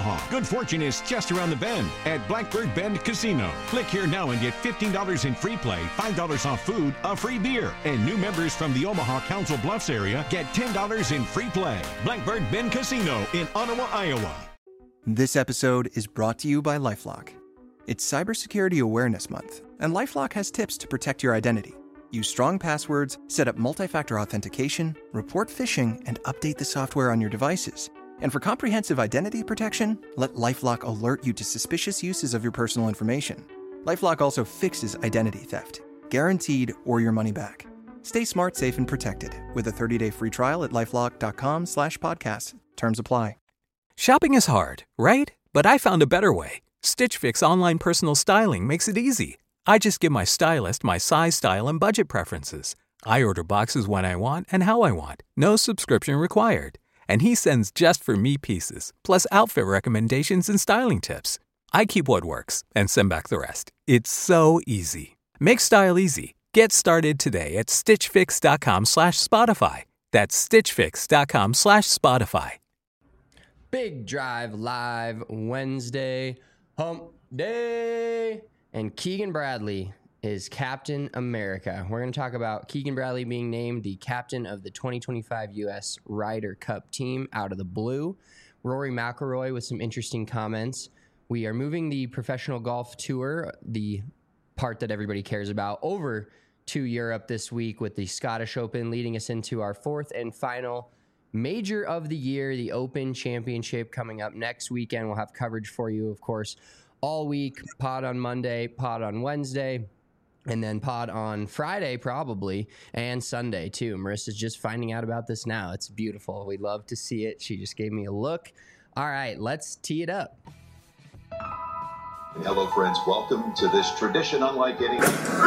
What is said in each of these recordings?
Omaha. Good fortune is just around the bend at Blackbird Bend Casino. Click here now and get $15 in free play, $5 off food, a free beer. And new members from the Omaha Council Bluffs area get $10 in free play. Blackbird Bend Casino in Ottawa, Iowa. This episode is brought to you by LifeLock. It's Cybersecurity Awareness Month, and LifeLock has tips to protect your identity. Use strong passwords, set up multi-factor authentication, report phishing, and update the software on your devices. And for comprehensive identity protection, let LifeLock alert you to suspicious uses of your personal information. LifeLock also fixes identity theft, guaranteed or your money back. Stay smart, safe, and protected with a 30-day free trial at LifeLock.com/podcast. Terms apply. Shopping is hard, right? But I found a better way. Stitch Fix online personal styling makes it easy. I just give my stylist my size, style, and budget preferences. I order boxes when I want and how I want. No subscription required. And he sends just for me pieces, plus outfit recommendations and styling tips. I keep what works and send back the rest. It's so easy. Make style easy. Get started today at stitchfix.com/Spotify. That's stitchfix.com/Spotify. Big Drive Live Wednesday, Hump Day. And Keegan Bradley is Captain America. We're going to talk about Keegan Bradley being named the captain of the 2025 U.S. Ryder Cup team out of the blue. Rory McIlroy with some interesting comments. We are moving the professional golf tour, the part that everybody cares about, over to Europe this week with the Scottish Open, leading us into our fourth and final major of the year, the Open Championship, coming up next weekend. We'll have coverage for you, of course, all week. Pod on Monday, pod on Wednesday, and then pod on Friday probably, and Sunday too. Marissa's just finding out about this now. It's beautiful. We love to see it. She just gave me a look. All right, let's tee it up. Hello, friends. Welcome to this tradition unlike any.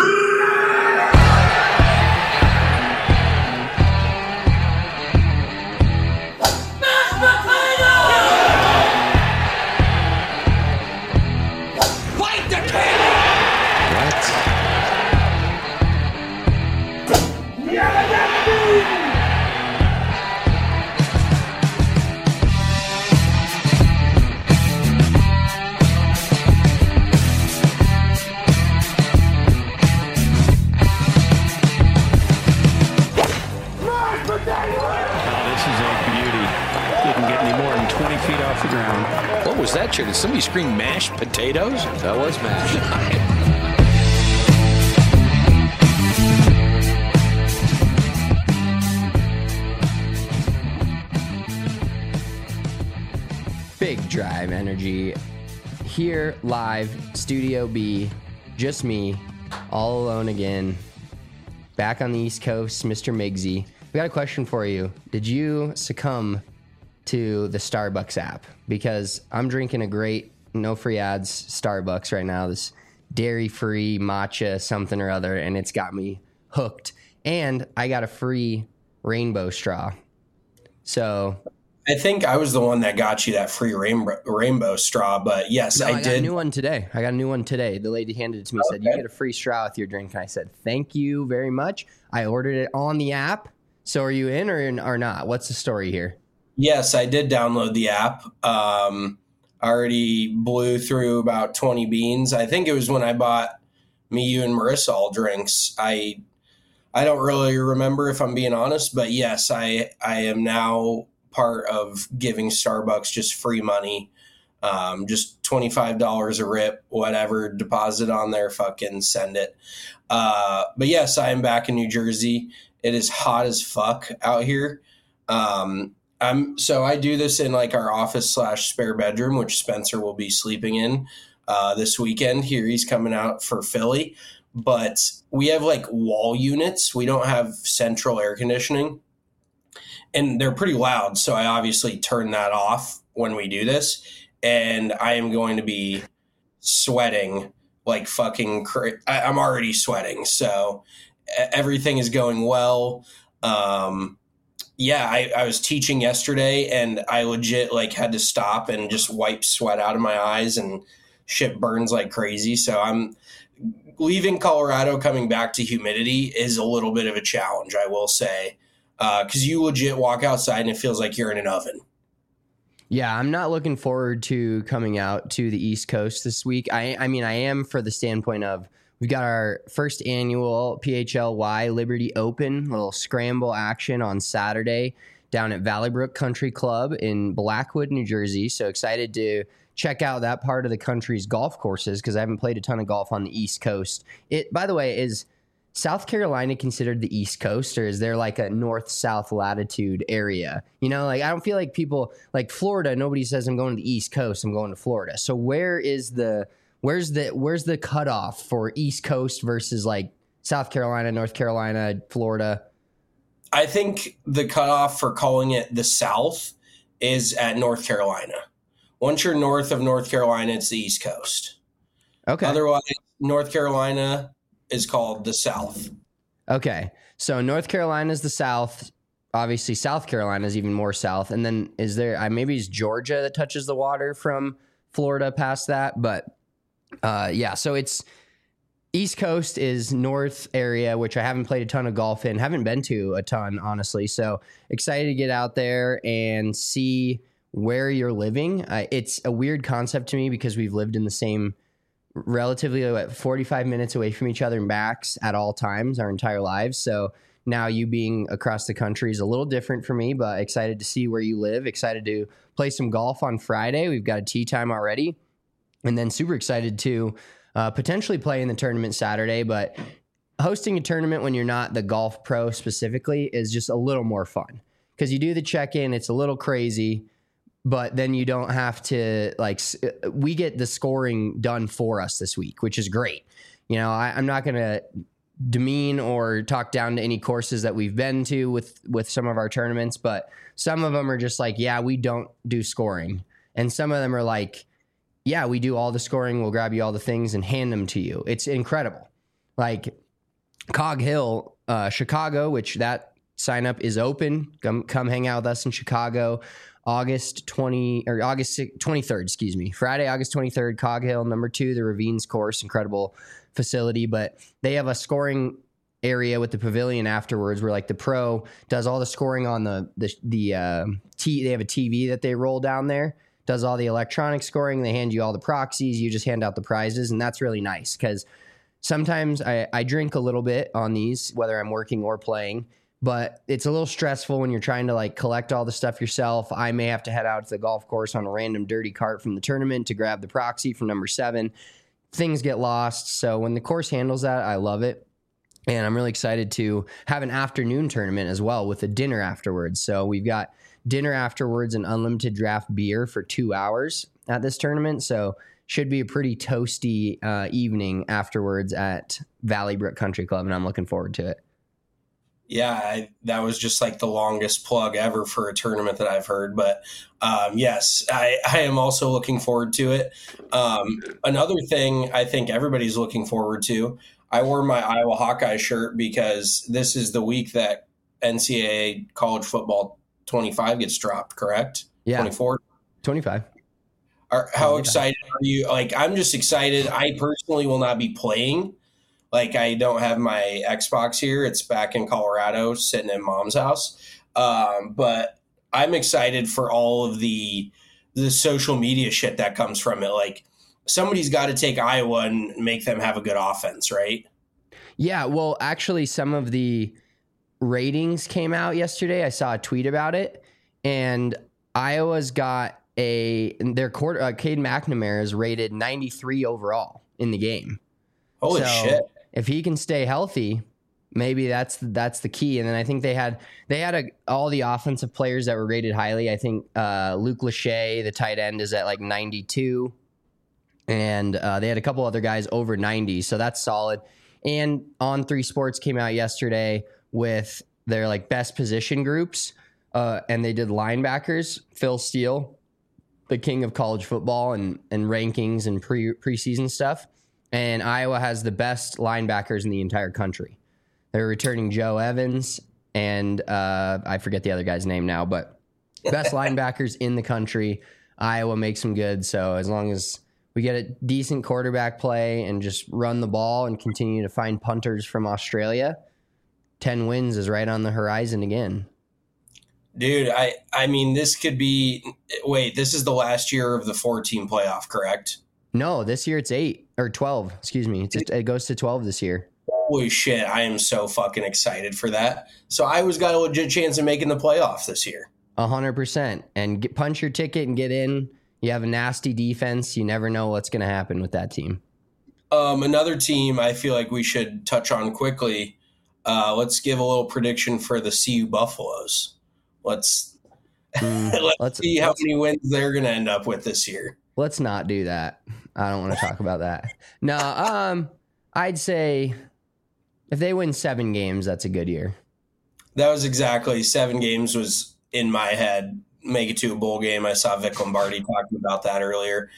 What was that, Chair? Did somebody scream mashed potatoes? That was mashed. Big Drive Energy here live, Studio B, just me, all alone again, back on the East Coast, Mr. Miggsy. We got a question for you. Did you succumb to the Starbucks app? Because I'm drinking a great, no free ads Starbucks right now, this dairy-free matcha something or other, and it's got me hooked. And I got a free rainbow straw. So I think I was the one that got you that free rainbow straw, but yes, I did. I got a new one today. The lady handed it to me, said, you get a free straw with your drink. And I said, thank you very much. I ordered it on the app. So are you in or not? What's the story here? Yes, I did download the app. I already blew through about 20 beans. I think it was when I bought me, you, and Marissa all drinks. I don't really remember, if I'm being honest, but yes, I am now part of giving Starbucks just free money, just $25 a rip, whatever, deposit on there, fucking send it. But yes, I am back in New Jersey. It is hot as fuck out here. So I do this in like our office / spare bedroom, which Spencer will be sleeping in this weekend. Here he's coming out for Philly, but we have like wall units. We don't have central air conditioning, and they're pretty loud. So I obviously turn that off when we do this, and I am going to be sweating like fucking I'm already sweating. So everything is going well. Yeah, I was teaching yesterday, and I legit like had to stop and just wipe sweat out of my eyes, and shit burns like crazy. So I'm leaving Colorado, coming back to humidity is a little bit of a challenge, I will say, because you legit walk outside and it feels like you're in an oven. Yeah, I'm not looking forward to coming out to the East Coast this week. I mean, I am for the standpoint of we've got our first annual PHLY Liberty Open, little scramble action on Saturday down at Valley Brook Country Club in Blackwood, New Jersey. So excited to check out that part of the country's golf courses because I haven't played a ton of golf on the East Coast. By the way, is South Carolina considered the East Coast, or is there like a north-south latitude area? You know, like I don't feel like people like Florida. Nobody says I'm going to the East Coast. I'm going to Florida. So where's the cutoff for East Coast versus like South Carolina, North Carolina, Florida? I think the cutoff for calling it the South is at North Carolina. Once you're north of North Carolina, it's the East Coast. Okay. Otherwise, North Carolina is called the South. Okay. So North Carolina is the South. Obviously, South Carolina is even more south. And then is there maybe it's Georgia that touches the water from Florida past that? But yeah, so it's East Coast is north area, which I haven't played a ton of golf in, haven't been to a ton, honestly. So excited to get out there and see where you're living. It's a weird concept to me because we've lived in the same relatively 45 minutes away from each other max at all times our entire lives. So now you being across the country is a little different for me, but excited to see where you live. Excited to play some golf on Friday. We've got a tee time already. And then super excited to potentially play in the tournament Saturday. But hosting a tournament when you're not the golf pro specifically is just a little more fun because you do the check-in. It's a little crazy, but then you don't have to we get the scoring done for us this week, which is great. You know, I'm not going to demean or talk down to any courses that we've been to with some of our tournaments, but some of them are just like, yeah, we don't do scoring. And some of them are like, yeah, we do all the scoring. We'll grab you all the things and hand them to you. It's incredible. Like Cog Hill, Chicago, which that sign up is open. Come hang out with us in Chicago. August 23rd, excuse me. Friday, August 23rd, Cog Hill, number 2, the Ravines course, incredible facility. But they have a scoring area with the pavilion afterwards where like the pro does all the scoring on they have a TV that they roll down there, does all the electronic scoring. They hand you all the proxies. You just hand out the prizes. And that's really nice because sometimes I drink a little bit on these, whether I'm working or playing. But it's a little stressful when you're trying to like collect all the stuff yourself. I may have to head out to the golf course on a random dirty cart from the tournament to grab the proxy from number 7. Things get lost. So when the course handles that, I love it. And I'm really excited to have an afternoon tournament as well with a dinner afterwards. So we've got dinner afterwards and unlimited draft beer for 2 hours at this tournament. So should be a pretty toasty evening afterwards at Valley Brook Country Club. And I'm looking forward to it. Yeah, that was just like the longest plug ever for a tournament that I've heard. But yes, I am also looking forward to it. Another thing I think everybody's looking forward to, I wore my Iowa Hawkeye shirt because this is the week that NCAA college football 25 gets dropped, correct? Yeah. 24? 25. How excited are you? Like, I'm just excited. I personally will not be playing. Like, I don't have my Xbox here. It's back in Colorado, sitting in Mom's house. But I'm excited for all of the social media shit that comes from it. Like, somebody's got to take Iowa and make them have a good offense, right? Yeah, well, actually, some of the ratings came out yesterday. I saw a tweet about it, and Iowa's got their quarter. Cade McNamara is rated 93 overall in the game. Holy shit! If he can stay healthy, maybe that's the key. And then I think they had all the offensive players that were rated highly. I think Luke Lachey, the tight end, is at like 92, and they had a couple other guys over 90. So that's solid. And On3 Sports came out yesterday with their like best position groups, and they did linebackers. Phil Steele, the king of college football and rankings and preseason stuff. And Iowa has the best linebackers in the entire country. They're returning Joe Evans and I forget the other guy's name now, but best linebackers in the country. Iowa makes them good. So as long as we get a decent quarterback play and just run the ball and continue to find punters from Australia, 10 wins is right on the horizon again. Dude, I mean, this could be. Wait, this is the last year of the 4-team playoff, correct? No, this year it's 8 or 12. Excuse me. It goes to 12 this year. Holy shit, I am so fucking excited for that. So Iowa's got a legit chance of making the playoff this year. 100%. And punch your ticket and get in. You have a nasty defense. You never know what's going to happen with that team. Another team I feel like we should touch on quickly. Let's give a little prediction for the CU Buffaloes. Let's see how many wins they're going to end up with this year. Let's not do that. I don't want to talk about that. No, I'd say if they win 7 games, that's a good year. That was exactly 7 games was in my head. Make it to a bowl game. I saw Vic Lombardi talking about that earlier.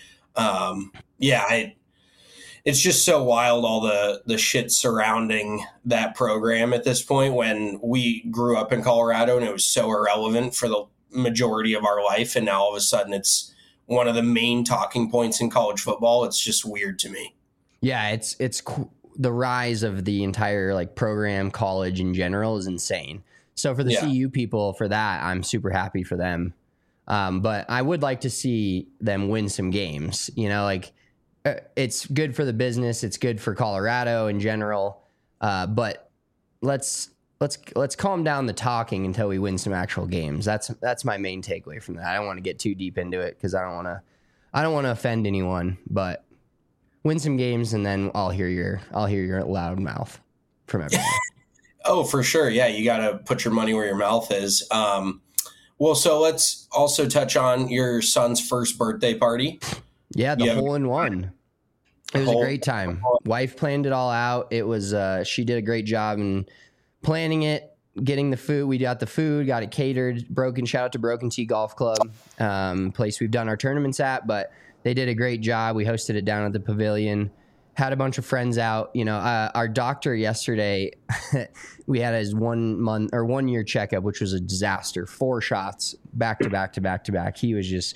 It's just so wild, all the shit surrounding that program at this point when we grew up in Colorado and it was so irrelevant for the majority of our life. And now all of a sudden it's one of the main talking points in college football. It's just weird to me. Yeah, it's the rise of the entire like program, college in general is insane. So for the CU people, for that, I'm super happy for them. But I would like to see them win some games. You know, like it's good for the business. It's good for Colorado in general. But let's calm down the talking until we win some actual games. That's my main takeaway from that. I don't want to get too deep into it because I don't want to offend anyone. But win some games and then I'll hear your loud mouth from everyone. Oh, for sure. Yeah, you got to put your money where your mouth is. Well, so let's also touch on your son's first birthday party. Yeah, the hole-in-one. It was a great time. Wife planned it all out. It was she did a great job in planning it, getting the food. We got the food, got it catered. Shout out to Broken T Golf Club, place we've done our tournaments at, but they did a great job. We hosted it down at the pavilion. Had a bunch of friends out. You know, our doctor yesterday, we had his 1 year checkup, which was a disaster. 4 shots back to back to back to back. He was just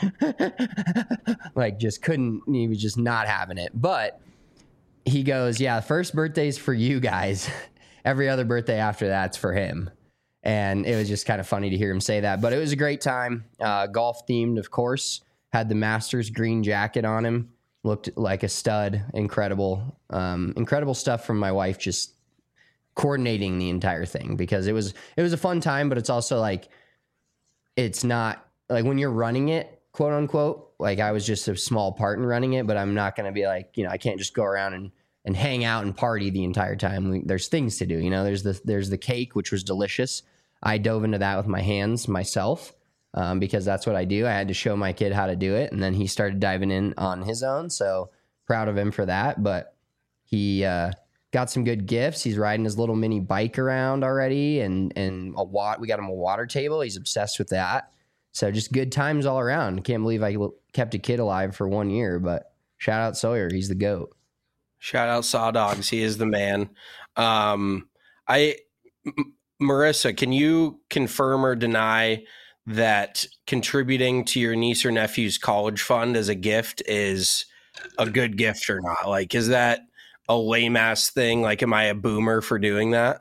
he was just not having it. But he goes, yeah, first birthday's for you guys. Every other birthday after that's for him. And it was just kind of funny to hear him say that. But it was a great time. Golf themed, of course. Had the Masters green jacket on him. Looked like a stud. Incredible stuff from my wife, just coordinating the entire thing, because it was a fun time, but it's also like, it's not like when you're running it, quote unquote, like I was just a small part in running it, but I'm not going to be like, I can't just go around and hang out and party the entire time. There's things to do. There's the cake, which was delicious. I dove into that with my hands myself. Because that's what I do. I had to show my kid how to do it, and then he started diving in on his own. So proud of him for that. But he got some good gifts. He's riding his little mini bike around already, and we got him a water table. He's obsessed with that. So just good times all around. Can't believe I kept a kid alive for 1 year. But shout out Sawyer, he's the GOAT. Shout out Saw Dogs, he is the man. Marissa, can you confirm or deny that contributing to your niece or nephew's college fund as a gift is a good gift or not? Like, is that a lame ass thing? Like, am I a boomer for doing that?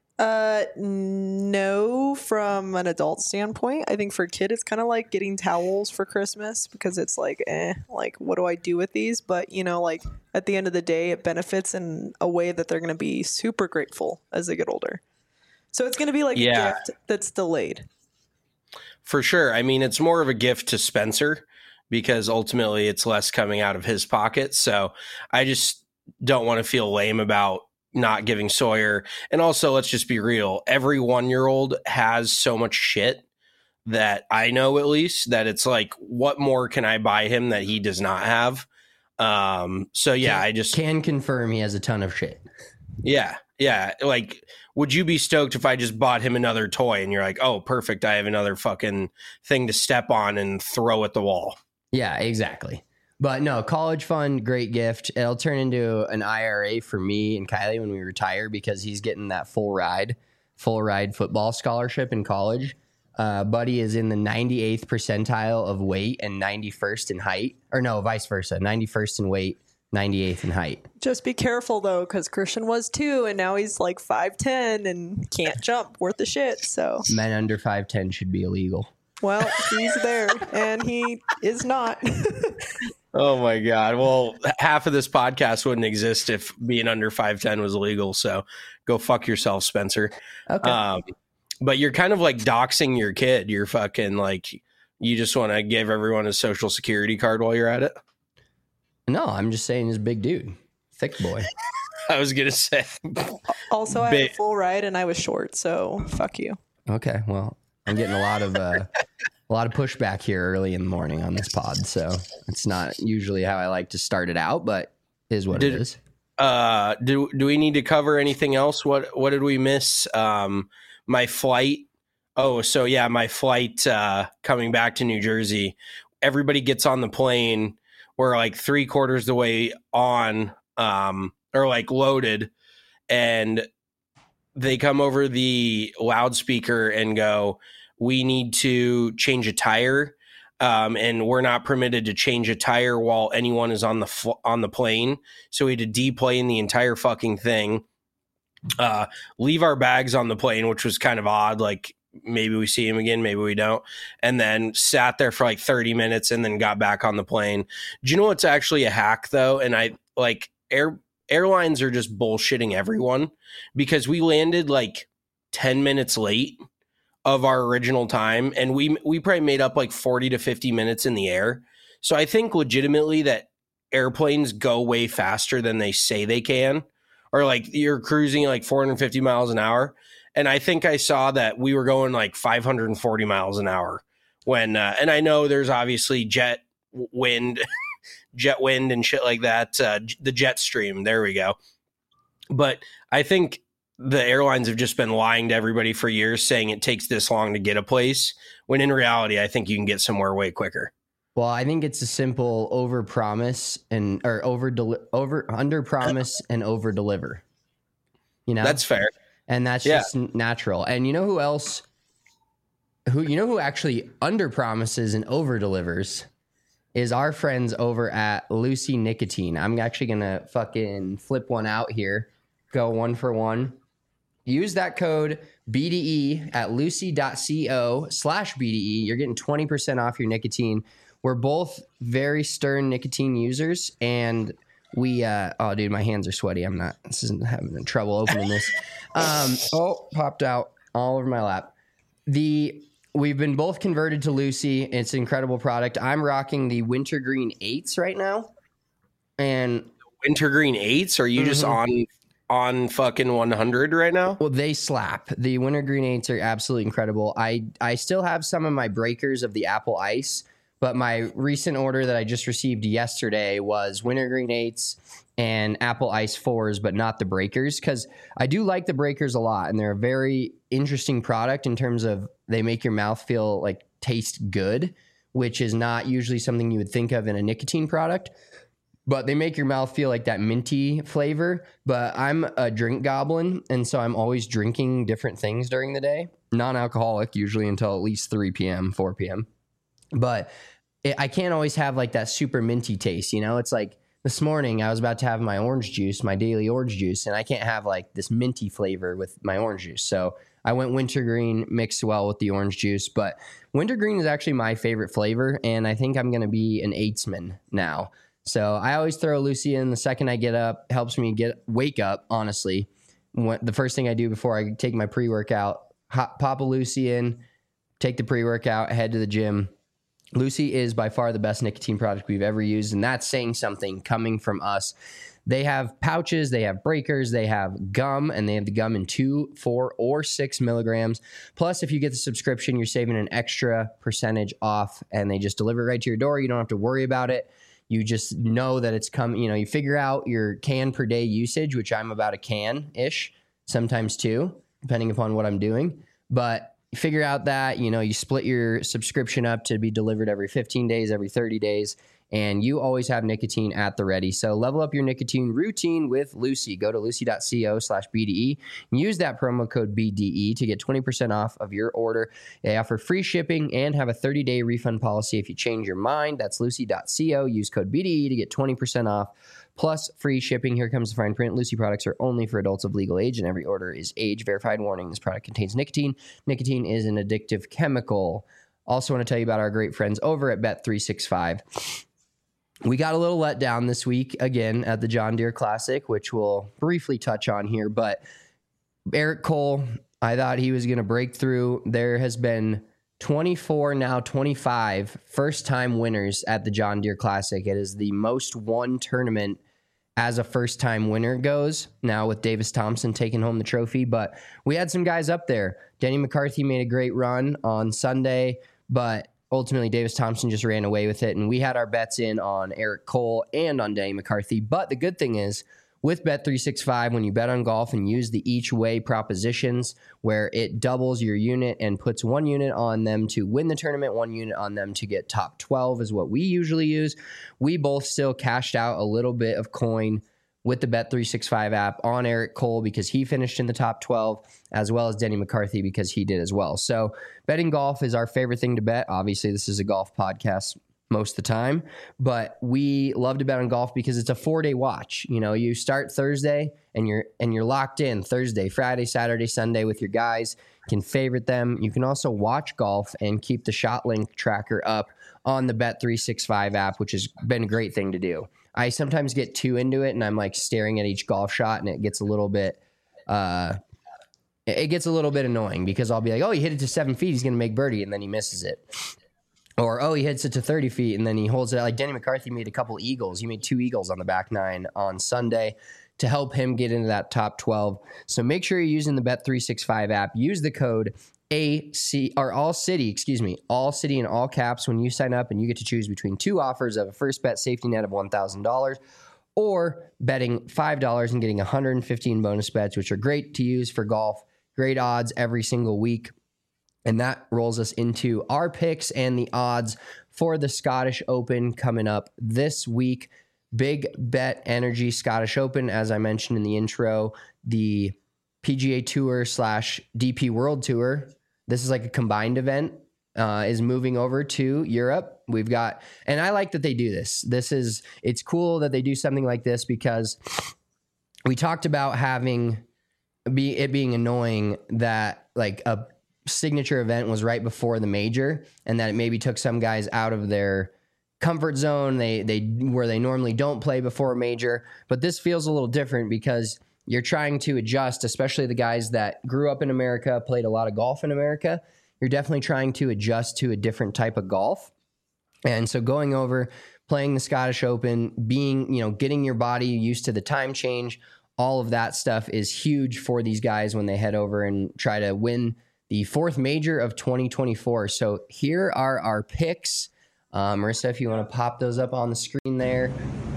No, from an adult standpoint. I think for a kid, it's kind of like getting towels for Christmas, because it's like, like, what do I do with these? But, like at the end of the day, it benefits in a way that they're going to be super grateful as they get older. So it's going to be like a gift that's delayed. For sure. I mean, it's more of a gift to Spencer because ultimately it's less coming out of his pocket. So I just don't want to feel lame about not giving Sawyer. And also, let's just be real. Every 1-year-old has so much shit that I know, at least, that it's like, what more can I buy him that he does not have? So yeah, I just can confirm he has a ton of shit. Yeah. Yeah. Like, would you be stoked if I just bought him another toy and you're like, oh, perfect, I have another fucking thing to step on and throw at the wall? Yeah, exactly. But no, college fund, great gift. It'll turn into an IRA for me and Kylie when we retire, because he's getting that full ride football scholarship in college. Buddy is in the 98th percentile of weight and 91st in height, or no, vice versa, 91st in weight, 98th in height. Just be careful though, because Christian was too, and now he's like 5'10" and can't jump worth the shit. So Men under 5'10" should be illegal. well, he's there, and he is not. Oh my God. Well, half of this podcast wouldn't exist if being under 5'10" was illegal. So go fuck yourself, Spencer. Okay. But you're kind of like doxing your kid. You're fucking like, you just want to give everyone a social security card while you're at it. No, I'm just saying he's a big dude. Thick boy. I was going to say. Also, I had a full ride and I was short, so fuck you. Okay. Well, I'm getting a lot of pushback here early in the morning on this pod. So it's not usually how I like to start it out, but is what it is. Do we need to cover anything else? What did we miss? My flight. Oh, so yeah, my flight coming back to New Jersey. Everybody gets on the plane. We're like 3/4 the way on, or like loaded, and they come over the loudspeaker and go, "We need to change a tire, and we're not permitted to change a tire while anyone is on the plane." So we had to deplane the entire fucking thing, leave our bags on the plane, which was kind of odd. Like maybe we see him again, maybe we don't, and then sat there for like 30 minutes and then got back on the plane. Do you know what's actually a hack though? And I like airlines are just bullshitting everyone, because we landed like 10 minutes late of our original time, and we probably made up like 40 to 50 minutes in the air. So I think legitimately that airplanes go way faster than they say they can, or like you're cruising like 450 miles an hour. And I think I saw that we were going like 540 miles an hour when, and I know there's obviously jet wind and shit like that. The jet stream. There we go. But I think the airlines have just been lying to everybody for years, saying it takes this long to get a place, when in reality, I think you can get somewhere way quicker. Well, I think it's a simple under promise and over deliver. You know, that's fair. And that's just natural. And you know who else? Who actually under promises and over delivers is our friends over at Lucy Nicotine. I'm actually gonna fucking flip one out here. Go 1 for 1. Use that code BDE at lucy.co/BDE. You're getting 20% off your nicotine. We're both very stern nicotine users, and we oh dude, my hands are sweaty. This isn't having trouble opening this. Popped out all over my lap. We've been both converted to Lucy. It's an incredible product. I'm rocking the Wintergreen 8s right now. And Wintergreen 8s? Are you just on fucking 100 right now? Well, they slap. The Wintergreen 8s are absolutely incredible. I still have some of my breakers of the Apple Ice, but my recent order that I just received yesterday was Wintergreen 8s and Apple Ice 4s, but not the breakers, because I do like the breakers a lot, and they're a very interesting product in terms of they make your mouth feel like taste good, which is not usually something you would think of in a nicotine product, but they make your mouth feel like that minty flavor. But I'm a drink goblin, and so I'm always drinking different things during the day, non-alcoholic usually until at least 3 p.m., 4 p.m. But I can't always have like that super minty taste, you know? It's like this morning I was about to have my orange juice, my daily orange juice, and I can't have like this minty flavor with my orange juice. So I went wintergreen, mixed well with the orange juice. But wintergreen is actually my favorite flavor, and I think I'm going to be an 8sman now. So I always throw Lucy in the second I get up. Helps me wake up, honestly. The first thing I do before I take my pre-workout, pop a Lucy in, take the pre-workout, head to the gym. Lucy is by far the best nicotine product we've ever used, and that's saying something coming from us. They have pouches, they have breakers, they have gum, and they have the gum in 2, 4, or 6 milligrams. Plus, if you get the subscription, you're saving an extra percentage off, and they just deliver it right to your door. You don't have to worry about it. You just know that it's coming. You know, you figure out your can per day usage, which I'm about a can-ish, sometimes 2, depending upon what I'm doing. But you figure out that, you know, you split your subscription up to be delivered every 15 days, every 30 days, and you always have nicotine at the ready. So level up your nicotine routine with Lucy. Go to lucy.co/BDE and use that promo code BDE to get 20% off of your order. They offer free shipping and have a 30-day refund policy if you change your mind. That's lucy.co. Use code BDE to get 20% off plus free shipping. Here comes the fine print. Lucy products are only for adults of legal age, and every order is age verified. Warning, this product contains nicotine. Nicotine is an addictive chemical. Also want to tell you about our great friends over at Bet365. We got a little let down this week again at the John Deere Classic, which we'll briefly touch on here. But Eric Cole, I thought he was going to break through. There has been 24, now 25 first-time winners at the John Deere Classic. It is the most won tournament as a first-time winner goes, now with Davis Thompson taking home the trophy. But we had some guys up there. Denny McCarthy made a great run on Sunday, but ultimately, Davis Thompson just ran away with it, and we had our bets in on Eric Cole and on Denny McCarthy. But the good thing is, with Bet365, when you bet on golf and use the each way propositions, where it doubles your unit and puts 1 unit on them to win the tournament, 1 unit on them to get top 12 is what we usually use. We both still cashed out a little bit of coin with the Bet365 app on Eric Cole because he finished in the top 12, as well as Denny McCarthy because he did as well. So betting golf is our favorite thing to bet. Obviously, this is a golf podcast most of the time, but we love to bet on golf because it's a 4-day watch. You know, you start Thursday and you're locked in Thursday, Friday, Saturday, Sunday with your guys. You can favorite them. You can also watch golf and keep the shot length tracker up on the Bet365 app, which has been a great thing to do. I sometimes get too into it and I'm like staring at each golf shot and it gets a little bit annoying because I'll be like, oh, he hit it to 7 feet, he's going to make birdie, and then he misses it. Or, oh, he hits it to 30 feet and then he holds it. Like Denny McCarthy made a couple eagles. He made 2 eagles on the back 9 on Sunday to help him get into that top 12. So make sure you're using the Bet365 app. Use the code all city in all caps when you sign up, and you get to choose between 2 offers of a first bet safety net of $1,000 or betting $5 and getting 115 bonus bets, which are great to use for golf. Great odds every single week. And that rolls us into our picks and the odds for the Scottish Open coming up this week. Big Bet Energy Scottish Open, as I mentioned in the intro, the PGA Tour / DP World Tour. This is like a combined event, is moving over to Europe. We've got, and I like that they do this. It's cool that they do something like this because we talked about it being annoying that like a signature event was right before the major and that it maybe took some guys out of their comfort zone. Where they normally don't play before a major, but this feels a little different because you're trying to adjust, especially the guys that grew up in America, played a lot of golf in America. You're definitely trying to adjust to a different type of golf. And so going over, playing the Scottish Open, getting your body used to the time change, all of that stuff is huge for these guys when they head over and try to win the 4th major of 2024. So here are our picks. Marissa, if you want to pop those up on the screen there.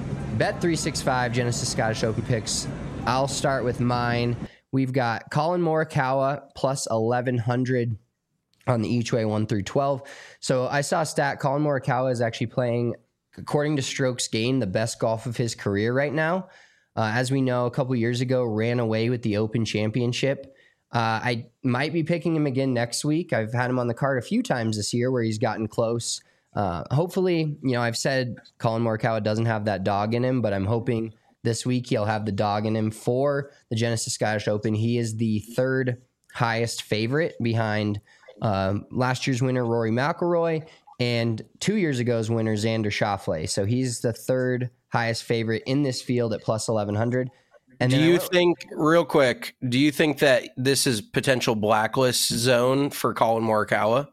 Bet365 Genesis Scottish Open picks. I'll start with mine. We've got Colin Morikawa plus 1,100 on the each way 1 through 12. So I saw a stat. Colin Morikawa is actually playing, according to strokes gained, the best golf of his career right now. As we know, a couple years ago, ran away with the Open Championship. I might be picking him again next week. I've had him on the card a few times this year where he's gotten close. Hopefully, I've said Colin Morikawa doesn't have that dog in him, but I'm hoping this week he'll have the dog in him for the Genesis Scottish Open. He is the 3rd highest favorite behind last year's winner, Rory McIlroy, and 2 years ago's winner, Xander Schauffele. So he's the 3rd highest favorite in this field at plus 1,100. And do you think that this is potential blacklist zone for Colin Morikawa?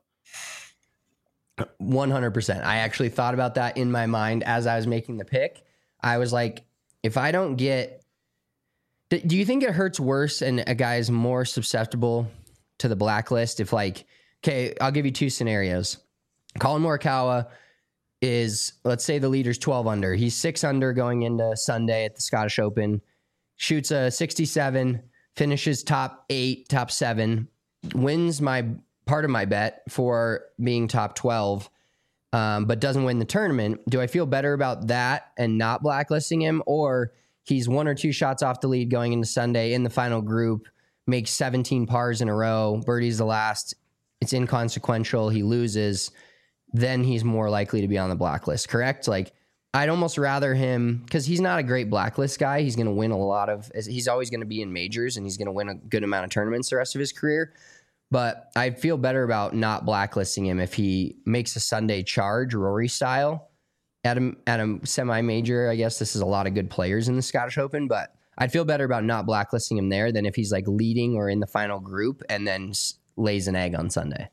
100%. I actually thought about that in my mind as I was making the pick. I was like, if I don't get... Do you think it hurts worse and a guy is more susceptible to the blacklist? If I'll give you 2 scenarios. Colin Morikawa is, let's say the leader's 12 under. He's 6 under going into Sunday at the Scottish Open. Shoots a 67, finishes top 8, top 7, wins my part of my bet for being top 12. but doesn't win the tournament. Do I feel better about that and not blacklisting him, or he's 1 or 2 shots off the lead going into Sunday in the final group, makes 17 pars in a row, birdie's the last, it's inconsequential, he loses, then he's more likely to be on the blacklist, correct? Like, I'd almost rather him, because he's not a great blacklist guy. He's going to win he's always going to be in majors, and he's going to win a good amount of tournaments the rest of his career. But I'd feel better about not blacklisting him if he makes a Sunday charge, Rory style, at a semi-major. I guess this is a lot of good players in the Scottish Open, but I'd feel better about not blacklisting him there than if he's like leading or in the final group and then lays an egg on Sunday.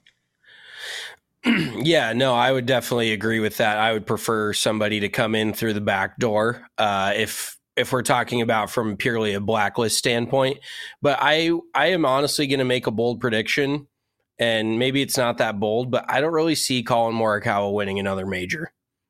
Yeah, no, I would definitely agree with that. I would prefer somebody to come in through the back door if we're talking about from purely a blacklist standpoint. But I am honestly going to make a bold prediction, and maybe it's not that bold, but I don't really see Collin Morikawa winning another major.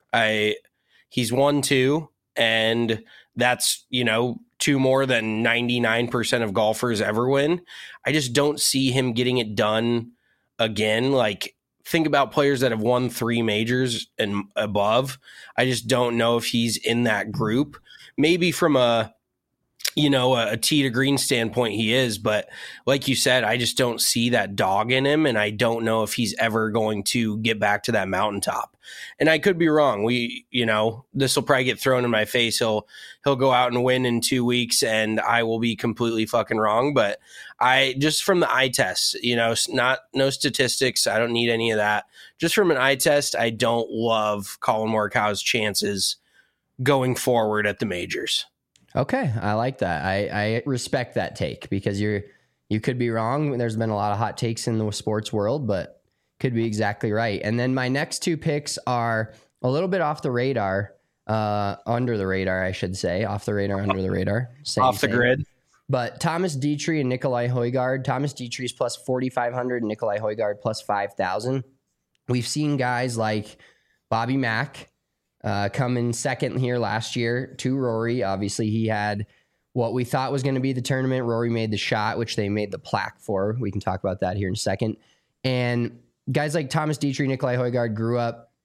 He's won 2, and that's, 2 more than 99% of golfers ever win. I just don't see him getting it done again. Like, think about players that have won 3 majors and above. I just don't know if he's in that group. Maybe from a tee to green standpoint, he is, but like you said, I just don't see that dog in him, and I don't know if he's ever going to get back to that mountaintop. And I could be wrong. This will probably get thrown in my face. He'll go out and win in 2 weeks, and I will be completely fucking wrong. But I just from the eye test, no statistics. I don't need any of that. Just from an eye test, I don't love Collin Morikawa's chances going forward at the majors. Okay, I like that. I respect that take, because you could be wrong. There's been a lot of hot takes in the sports world, but could be exactly right. And then my next 2 picks are a little bit off the radar, under the radar, I should say. Off the radar, under the radar. Off the grid. But Thomas Dietrich and Nicolai Højgaard. Thomas Dietrich's plus 4,500 and Nicolai Højgaard plus 5,000. We've seen guys like Bobby Mack come in second here last year to Rory. Obviously, he had what we thought was going to be the tournament. Rory made the shot, which they made the plaque for. We can talk about that here in a second. And guys like Thomas Dietrich, Nicolai Højgaard grew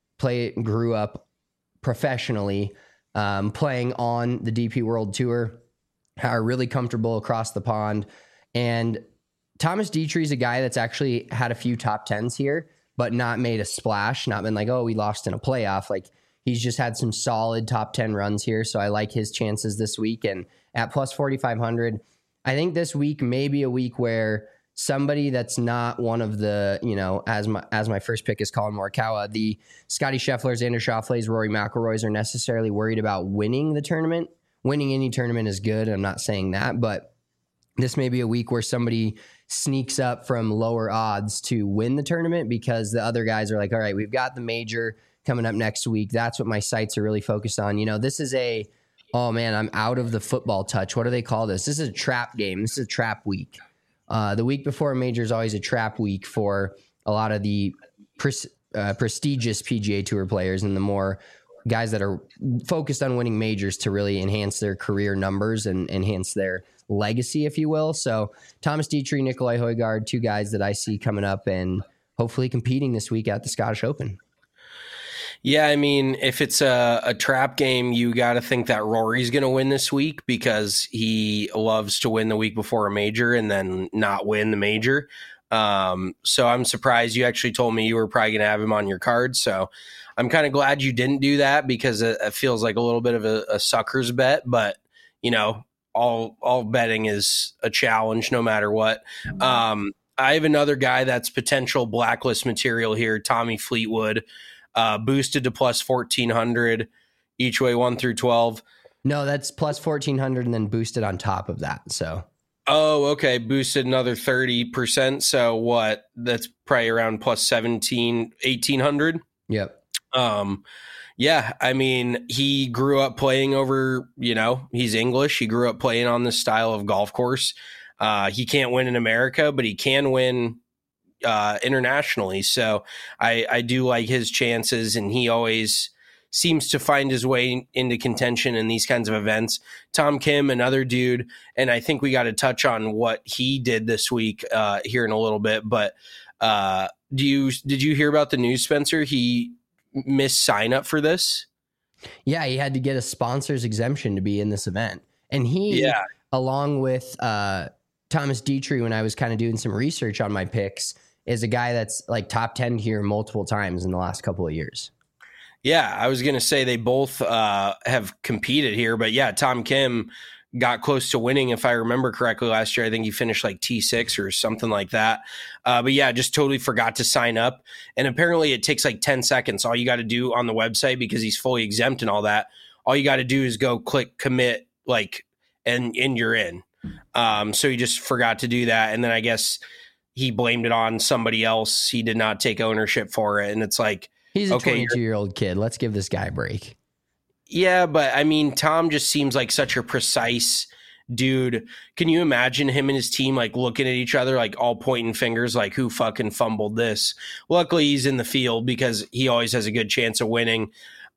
up professionally, playing on the DP World Tour, are really comfortable across the pond. And Thomas Dietrich is a guy that's actually had a few top 10s here, but not made a splash, not been like, oh, we lost in a playoff. Like, he's just had some solid top 10 runs here. So I like his chances this week. And at plus 4,500, I think this week may be a week where somebody that's not one of the, as my first pick is Collin Morikawa, the Scotty Schefflers, Xander Schauffele's, Rory McIlroys are necessarily worried about winning the tournament. Winning any tournament is good. I'm not saying that, but this may be a week where somebody sneaks up from lower odds to win the tournament, because the other guys are like, all right, we've got the major coming up next week. That's what my sights are really focused on. This is oh man, I'm out of the football touch. What do they call this? This is a trap game. This is a trap week. The week before a major is always a trap week for a lot of the prestigious PGA Tour players and the more guys that are focused on winning majors to really enhance their career numbers and enhance their legacy, if you will. So Thomas Dietrich, Nicolai Højgaard, 2 guys that I see coming up and hopefully competing this week at the Scottish Open. Yeah, I mean, if it's a trap game, you got to think that Rory's going to win this week, because he loves to win the week before a major and then not win the major. So I'm surprised you actually told me you were probably going to have him on your card. So I'm kind of glad you didn't do that, because it feels like a little bit of a sucker's bet. But, all betting is a challenge no matter what. I have another guy that's potential blacklist material here, Tommy Fleetwood. Boosted to plus 1,400 each way 1 through 12. No, that's plus 1,400 and then boosted on top of that. So, oh, okay, boosted another 30%. So what? That's probably around plus 1,800. Yep. Yeah, I mean, he grew up playing over. He's English. He grew up playing on this style of golf course. He can't win in America, but he can win internationally. So I do like his chances, and he always seems to find his way into contention in these kinds of events. Tom Kim, another dude, and I think we got to touch on what he did this week here in a little bit. But did you hear about the news, Spencer? He miss sign up for this? Yeah, he had to get a sponsor's exemption to be in this event. And he, along with Thomas Dietrich, when I was kind of doing some research on my picks, is a guy that's like top 10 here multiple times in the last couple of years. Yeah, I was going to say they both have competed here, but yeah, Tom Kim got close to winning, if I remember correctly, last year. I think he finished like T6 or something like that. But yeah, just totally forgot to sign up. And apparently it takes like 10 seconds. All you got to do on the website, because he's fully exempt and all that, all you got to do is go click commit, and you're in. So he just forgot to do that. And then I guess he blamed it on somebody else. He did not take ownership for it. And it's like, he's a 22-year-old kid. Let's give this guy a break. Yeah, but I mean, Tom just seems like such a precise dude. Can you imagine him and his team like looking at each other, like all pointing fingers, like who fucking fumbled this? Luckily, he's in the field because he always has a good chance of winning.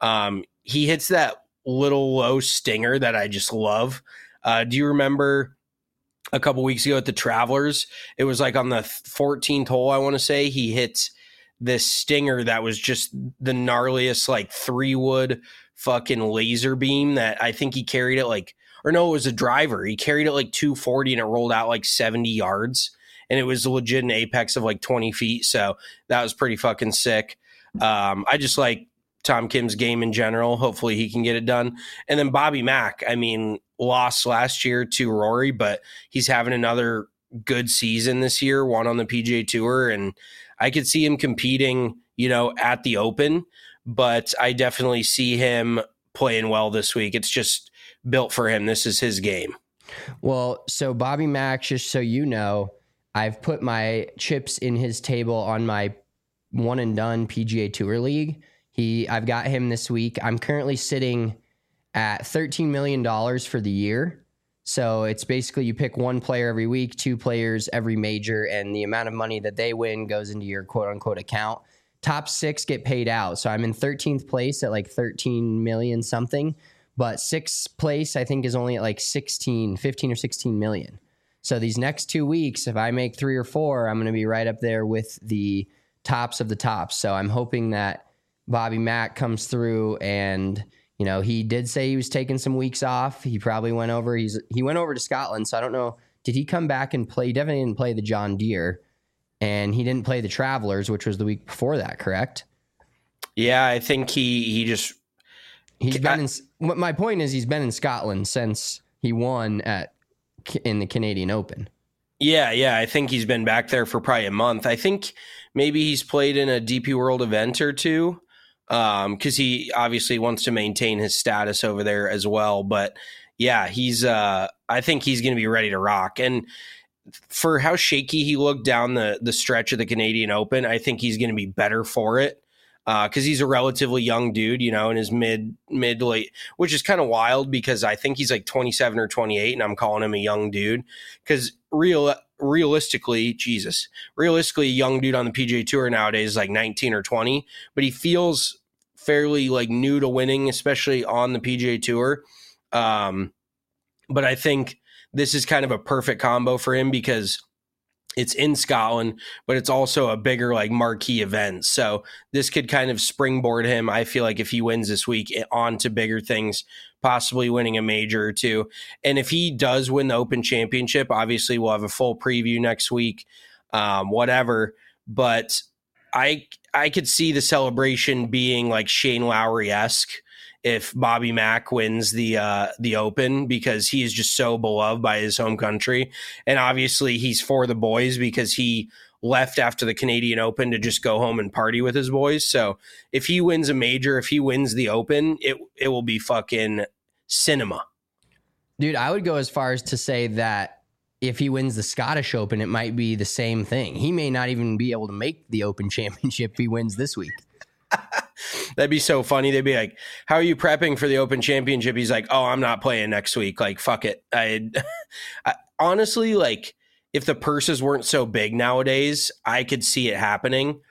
He hits that little low stinger that I just love. Do you remember a couple weeks ago at the Travelers? It was like on the 14th hole, I want to say, he hits this stinger that was just the gnarliest, like 3-wood fucking laser beam that I think he carried it it was a driver. He carried it like 240 and it rolled out like 70 yards. And it was legit an apex of like 20 feet. So that was pretty fucking sick. I just like Tom Kim's game in general. Hopefully he can get it done. And then Bobby Mack, I mean, lost last year to Rory, but he's having another good season this year, won on the PGA Tour. And I could see him competing, at the Open, but I definitely see him playing well this week. It's just built for him. This is his game. Well, so Bobby Mack, just so you know, I've put my chips in his table on my one and done PGA Tour League. I've got him this week. I'm currently sitting at $13 million for the year. So it's basically you pick one player every week, 2 players every major, and the amount of money that they win goes into your quote unquote account. Top 6 get paid out. So I'm in 13th place at like 13 million something, but 6th place I think is only at like 15 or 16 million. So these next 2 weeks, if I make 3 or 4, I'm going to be right up there with the tops of the tops. So I'm hoping that Bobby Mack comes through, and he did say he was taking some weeks off. He probably went over. He went over to Scotland, so I don't know. Did he come back and play? He definitely didn't play the John Deere, and he didn't play the Travelers, which was the week before that, correct? Yeah, I think he's been my point is he's been in Scotland since he won in the Canadian Open. Yeah, I think he's been back there for probably a month. I think maybe he's played in a DP World event or two, because he obviously wants to maintain his status over there as well. But yeah, I think he's going to be ready to rock. And for how shaky he looked down the stretch of the Canadian Open, I think he's going to be better for it, because he's a relatively young dude, in his mid to late, which is kind of wild because I think he's like 27 or 28, and I'm calling him a young dude because realistically, a young dude on the PGA Tour nowadays is like 19 or 20, but he feels fairly like new to winning, especially on the PGA Tour. But I think this is kind of a perfect combo for him because it's in Scotland, but it's also a bigger like marquee event. So this could kind of springboard him, I feel like, if he wins this week, on to bigger things, possibly winning a major or two. And if he does win the Open Championship, obviously we'll have a full preview next week, whatever. But I could see the celebration being like Shane Lowry-esque if Bobby Mack wins the Open, because he is just so beloved by his home country. And obviously he's for the boys because he left after the Canadian Open to just go home and party with his boys. So if he wins a major, if he wins the Open, it will be fucking cinema. Dude, I would go as far as to say that if he wins the Scottish Open, it might be the same thing. He may not even be able to make the Open Championship if he wins this week. That'd be so funny. They'd be like, how are you prepping for the Open Championship? He's like, oh, I'm not playing next week. Like, fuck it. I honestly, like, if the purses weren't so big nowadays, I could see it happening.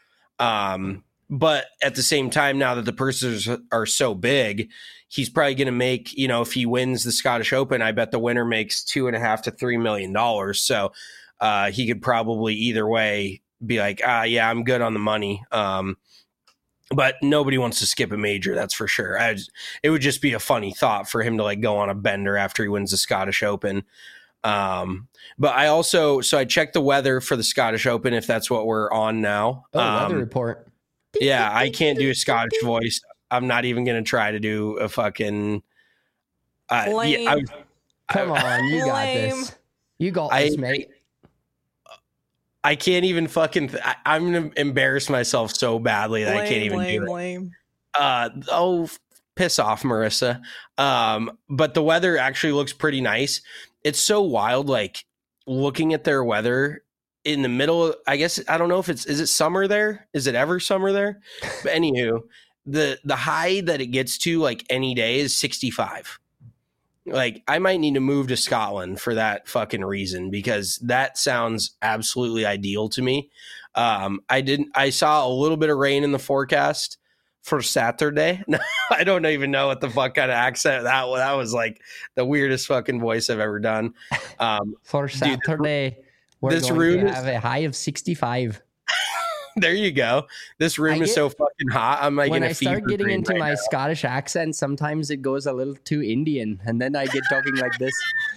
But at the same time, now that the purses are so big, he's probably going to make, if he wins the Scottish Open, I bet the winner makes $2.5 to $3 million. So he could probably either way be like, yeah, I'm good on the money. but nobody wants to skip a major. That's for sure. It would just be a funny thought for him to like go on a bender after he wins the Scottish Open. But I checked the weather for the Scottish Open, if that's what we're on now. Weather report. Yeah, I can't do a Scottish voice. I'm not even going to try to do a fucking. Come on, you got this. You got this, mate. I can't even fucking. I'm going to embarrass myself so badly that I can't even do it. Piss off, Marissa. But the weather actually looks pretty nice. It's so wild, like looking at their weather in the middle. I guess I don't know if is it summer there? Is it ever summer there? But anywho, the high that it gets to like any day is 65. Like I might need to move to Scotland for that fucking reason, because that sounds absolutely ideal to me. I saw a little bit of rain in the forecast for Saturday. I don't even know what the fuck kind of accent that was. Like the weirdest fucking voice I've ever done. For Saturday, we're going to have a high of 65. There you go. This room is so fucking hot. I'm like, when I start getting into my Scottish accent, sometimes it goes a little too Indian, and then I get talking like this.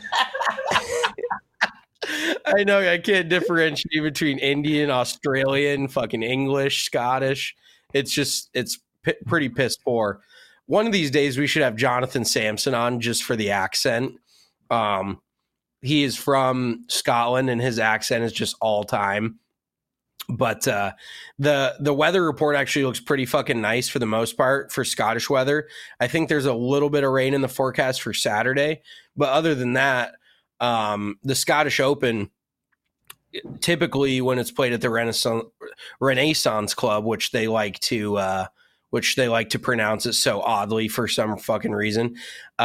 I know I can't differentiate between Indian, Australian, fucking English, Scottish. It's pretty piss poor. One of these days we should have Jonathan Sampson on just for the accent. He is from Scotland and his accent is just all time. But the weather report actually looks pretty fucking nice for the most part for Scottish weather. I think there's a little bit of rain in the forecast for Saturday, but other than that, the Scottish Open, typically when it's played at the Renaissance Club, which they like to pronounce it so oddly for some fucking reason,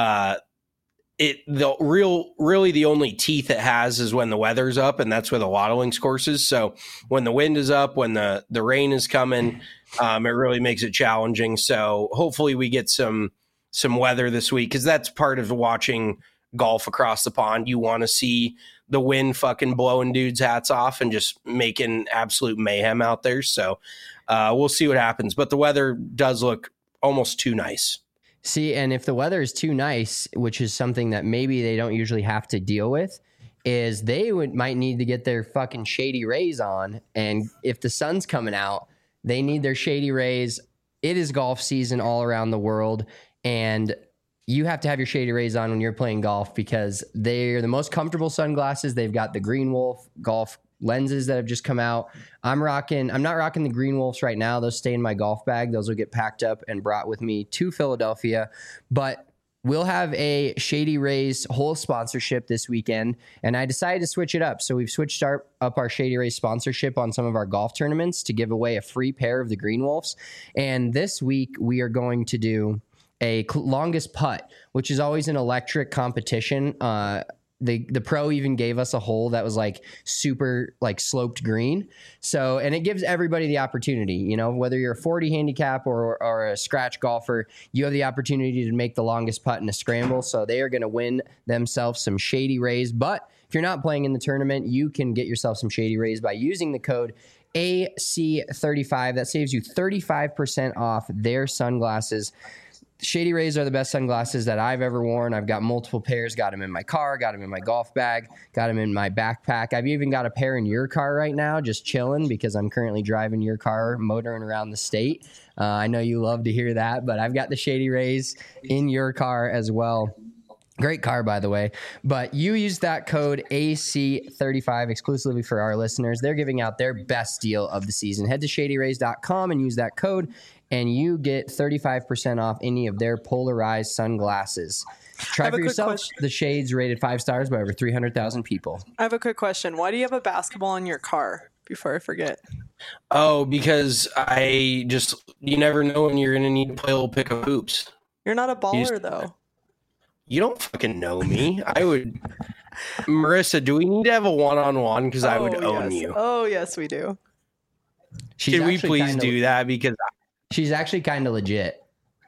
really the only teeth it has is when the weather's up, and that's where the Lotto Links course is. So when the wind is up, when the rain is coming, it really makes it challenging. So hopefully we get some weather this week, because that's part of watching golf across the pond. You want to see the wind fucking blowing dudes' hats off and just making absolute mayhem out there. So we'll see what happens. But the weather does look almost too nice. See, and if the weather is too nice, which is something that maybe they don't usually have to deal with, is they might need to get their fucking Shady Rays on. And if the sun's coming out, they need their Shady Rays. It is golf season all around the world, and you have to have your Shady Rays on when you're playing golf, because they're the most comfortable sunglasses. They've got the Green Wolf golf lenses that have just come out. I'm not rocking the Green Wolves right now. Those stay in my golf bag. Those will get packed up and brought with me to Philadelphia. But we'll have a Shady Rays whole sponsorship this weekend, and I decided to switch it up. So we've switched up our Shady Rays sponsorship on some of our golf tournaments to give away a free pair of the Green Wolves. And this week we are going to do a longest putt, which is always an electric competition. The pro even gave us a hole that was like super like sloped green. So, and it gives everybody the opportunity, you know, whether you're a 40 handicap or a scratch golfer, you have the opportunity to make the longest putt in a scramble. So they are going to win themselves some Shady Rays. But if you're not playing in the tournament, you can get yourself some Shady Rays by using the code AC35. That saves you 35% off their sunglasses. Shady Rays are the best sunglasses that I've ever worn. I've got multiple pairs, got them in my car, got them in my golf bag, got them in my backpack. I've even got a pair in your car right now, just chilling, because I'm currently driving your car, motoring around the state. I know you love to hear that, but I've got the Shady Rays in your car as well. Great car, by the way. But you use that code AC35 exclusively for our listeners. They're giving out their best deal of the season. Head to shadyrays.com and use that code, and you get 35% off any of their polarized sunglasses. Try for yourself the shades rated 5 stars by over 300,000 people. I have a quick question. Why do you have a basketball in your car? Before I forget. Oh, because you never know when you're going to need to play a little pick of hoops. You're not a baller, though. You don't fucking know me. Marissa, do we need to have a one-on-one? Because I would own you. Oh, yes, we do. Can we please do that? Because she's actually kind of legit.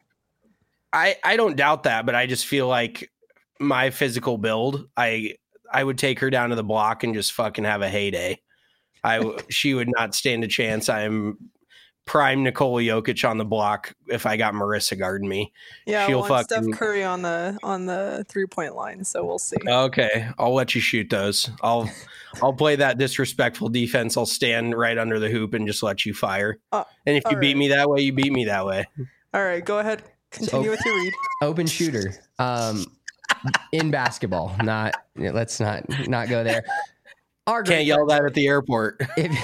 I don't doubt that, but I just feel like my physical build, I would take her down to the block and just fucking have a heyday. She would not stand a chance. I'm prime Nikola Jokic on the block if I got Marissa guarding me. Yeah, She'll I want Steph Curry on the 3-point line, so we'll see. Okay, I'll let you shoot those. I'll play that disrespectful defense. I'll stand right under the hoop and just let you fire. And if you beat me that way, you beat me that way. All right, go ahead. Continue with your read. Open shooter. In basketball. Let's not go there. Can't yell that at the airport.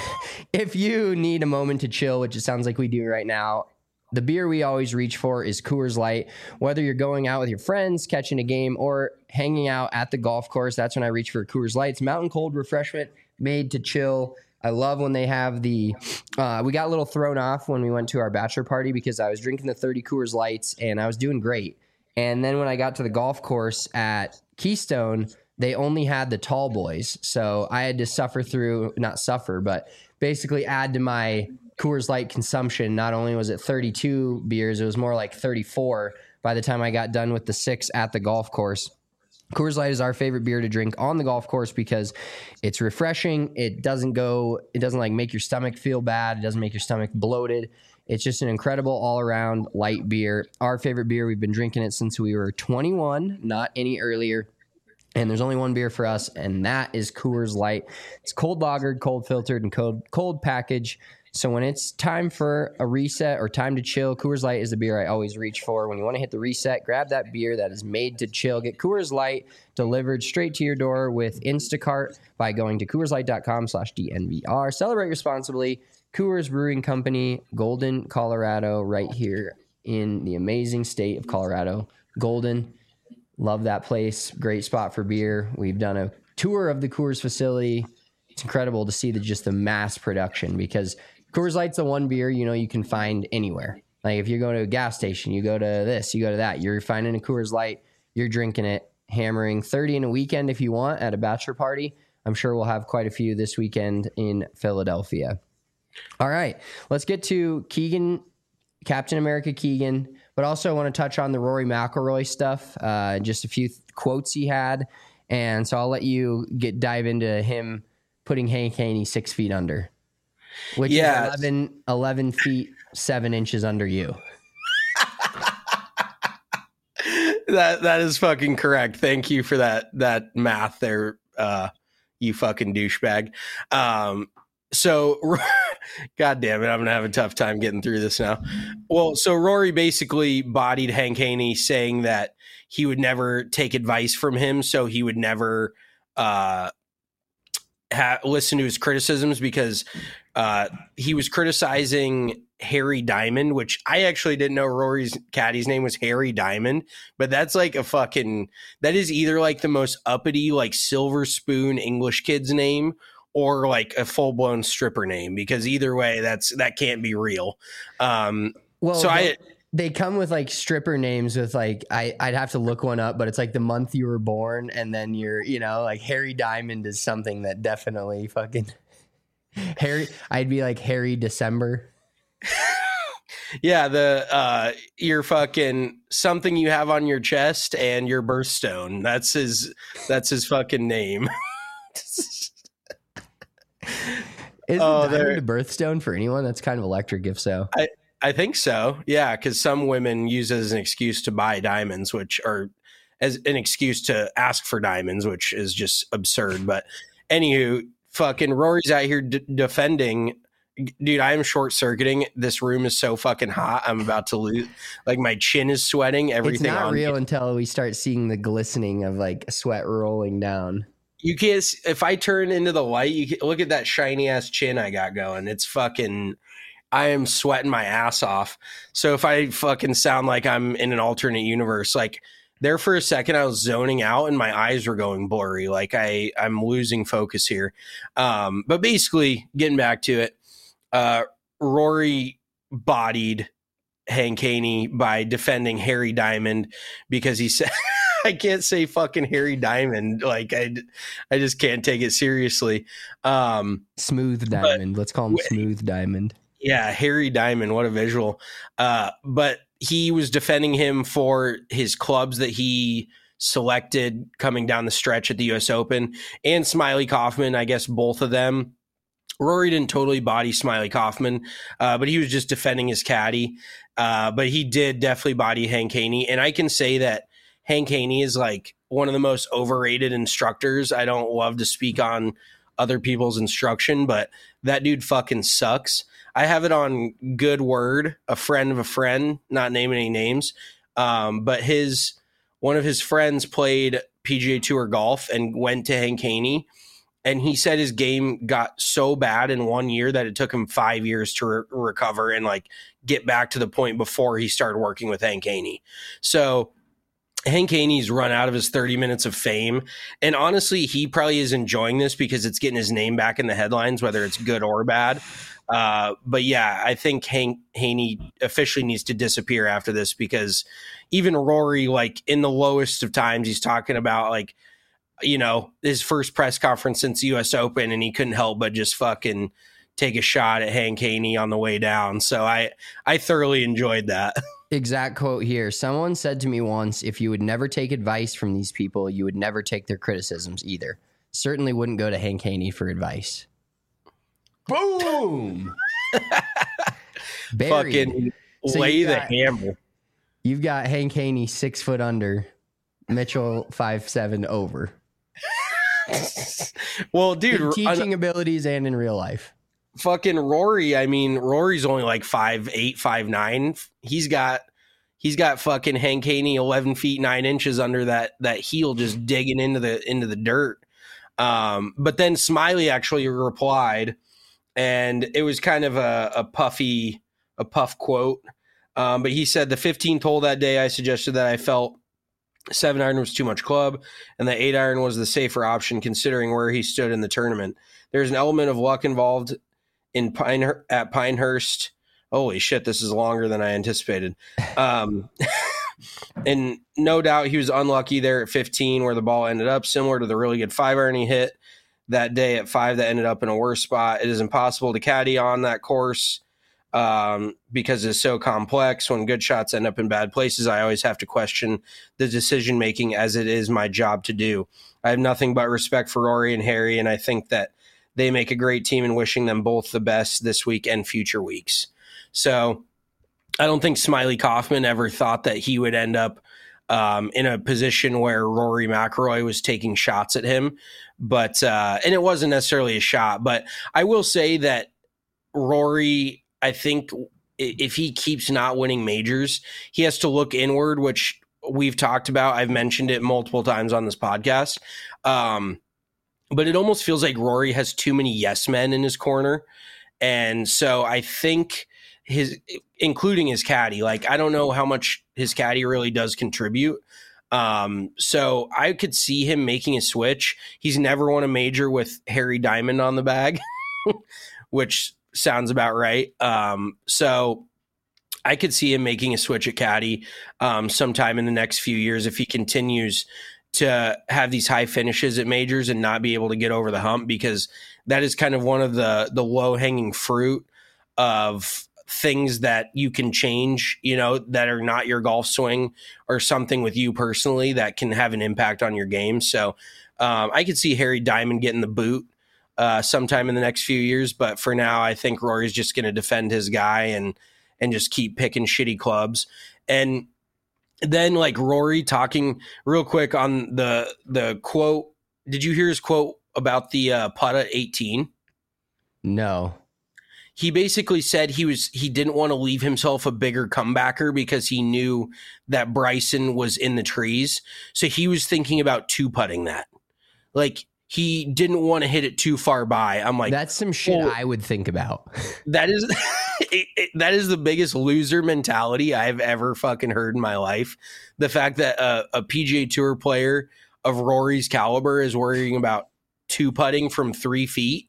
If you need a moment to chill, which it sounds like we do right now, the beer we always reach for is Coors Light. Whether you're going out with your friends, catching a game, or hanging out at the golf course, that's when I reach for Coors Light. It's mountain cold refreshment made to chill. I love when they have we got a little thrown off when we went to our bachelor party because I was drinking the 30 Coors Lights and I was doing great. And then when I got to the golf course at Keystone, they only had the tall boys. So I had to but basically add to my Coors Light consumption. Not only was it 32 beers, it was more like 34 by the time I got done with the 6 at the golf course. Coors Light is our favorite beer to drink on the golf course because it's refreshing. It doesn't like make your stomach feel bad. It doesn't make your stomach bloated. It's just an incredible all-around light beer. Our favorite beer, we've been drinking it since we were 21, not any earlier. And there's only one beer for us, and that is Coors Light. It's cold lagered, cold filtered, and cold packaged. So when it's time for a reset or time to chill, Coors Light is the beer I always reach for. When you want to hit the reset, grab that beer that is made to chill. Get Coors Light delivered straight to your door with Instacart by going to CoorsLight.com/DNVR. Celebrate responsibly. Coors Brewing Company, Golden, Colorado, right here in the amazing state of Colorado. Golden. Love that place. Great spot for beer. We've done a tour of the Coors facility. It's incredible to see the mass production because Coors Light's the one beer, you can find anywhere. Like if you go to a gas station, you go to this, you go to that, you're finding a Coors Light, you're drinking it, hammering 30 in a weekend if you want at a bachelor party. I'm sure we'll have quite a few this weekend in Philadelphia. All right, let's get to Keegan, Captain America Keegan. But also I want to touch on the Rory McIlroy stuff, just a few quotes he had. And so I'll let you dive into him putting Hank Haney 6 feet under, which is 11 feet, 7 inches under you. That is fucking correct. Thank you for that math there, you fucking douchebag. So, God damn it, I'm going to have a tough time getting through this now. Well, so Rory basically bodied Hank Haney saying that he would never take advice from him, so he would never listen to his criticisms because he was criticizing Harry Diamond, which I actually didn't know Rory's caddy's name was Harry Diamond, but that's like that is either like the most uppity, like silver spoon English kid's name or like a full-blown stripper name, because either way, that can't be real. They come with like stripper names with like, I'd have to look one up, but it's like the month you were born, and then you're, like Harry Diamond is something that definitely fucking I'd be like Harry December. Yeah, your fucking something you have on your chest and your birthstone. That's his fucking name. Is the diamond a birthstone for anyone? That's kind of electric, if so. I think so. Yeah, because some women use it as an excuse to buy diamonds, as an excuse to ask for diamonds, which is just absurd. But anywho, fucking Rory's out here defending. Dude, I am short circuiting. This room is so fucking hot. I'm about to lose. Like my chin is sweating. Everything. It's not real until we start seeing the glistening of like sweat rolling down. You can't. If I turn into the light, you can look at that shiny ass chin I got going. It's fucking. I am sweating my ass off. So if I fucking sound like I'm in an alternate universe, like there for a second, I was zoning out and my eyes were going blurry. Like I'm losing focus here. But basically, getting back to it, Rory bodied Hank Haney by defending Harry Diamond because he said. I can't say fucking Harry Diamond. Like I just can't take it seriously. Smooth Diamond. Let's call him Smooth Diamond. Yeah, Harry Diamond. What a visual. But he was defending him for his clubs that he selected coming down the stretch at the U.S. Open, and Smiley Kaufman. I guess both of them Rory didn't totally body Smiley Kaufman, but he was just defending his caddy. But he did definitely body Hank Haney. And I can say that Hank Haney is like one of the most overrated instructors. I don't love to speak on other people's instruction, but that dude fucking sucks. I have it on good word, a friend of a friend, not naming any names. But one of his friends played PGA Tour golf and went to Hank Haney. And he said his game got so bad in 1 year that it took him 5 years to recover and like get back to the point before he started working with Hank Haney. So Hank Haney's run out of his 30 minutes of fame. And honestly, he probably is enjoying this because it's getting his name back in the headlines, whether it's good or bad. But yeah, I think Hank Haney officially needs to disappear after this, because even Rory, like in the lowest of times, he's talking about like, you know, his first press conference since the US Open, and he couldn't help but just fucking take a shot at Hank Haney on the way down. So I thoroughly enjoyed that. Exact quote here. Someone said to me once, if you would never take advice from these people, you would never take their criticisms either. Certainly wouldn't go to Hank Haney for advice. Boom! Fucking lay the hammer. You've got Hank Haney 6 foot under, Mitchell 5'7" over. Well, dude, in teaching abilities and in real life. Fucking Rory. I mean, Rory's only like 5'8", 5'9". He's got fucking Hank Haney 11 feet 9 inches under that heel, just digging into the dirt. But then Smiley actually replied, and it was kind of a puff quote. But he said, the 15th hole that day, I suggested that I felt 7-iron was too much club, and the 8-iron was the safer option considering where he stood in the tournament. There's an element of luck involved at Pinehurst. Holy shit, this is longer than I anticipated. And no doubt he was unlucky there at 15 where the ball ended up, similar to the really good 5-iron he hit that day at 5 that ended up in a worse spot. It is impossible to caddy on that course. Because it's so complex. When good shots end up in bad places, I always have to question the decision making, as it is my job to do. I have nothing but respect for Rory and Harry, and I think that they make a great team, and wishing them both the best this week and future weeks. So I don't think Smiley Kaufman ever thought that he would end up in a position where Rory McIlroy was taking shots at him. But and it wasn't necessarily a shot, but I will say that Rory, I think if he keeps not winning majors, he has to look inward, which we've talked about. I've mentioned it multiple times on this podcast. But it almost feels like Rory has too many yes men in his corner. And so I think including his caddy, like, I don't know how much his caddy really does contribute. So I could see him making a switch. He's never won a major with Harry Diamond on the bag, which sounds about right. So I could see him making a switch at caddy sometime in the next few years if he continues to have these high finishes at majors and not be able to get over the hump, because that is kind of one of the low-hanging fruit of things that you can change, you know, that are not your golf swing or something with you personally that can have an impact on your game. So I could see Harry Diamond getting the boot sometime in the next few years. But for now, I think Rory's just going to defend his guy and just keep picking shitty clubs. And then, like, Rory talking real quick on the quote. Did you hear his quote about the putt at 18? No. He basically said he didn't want to leave himself a bigger comebacker because he knew that Bryson was in the trees. So he was thinking about two-putting that. Like, he didn't want to hit it too far by. I'm like, that's some shit I would think about. That is that is the biggest loser mentality I've ever fucking heard in my life. The fact that a PGA Tour player of Rory's caliber is worrying about two putting from 3 feet.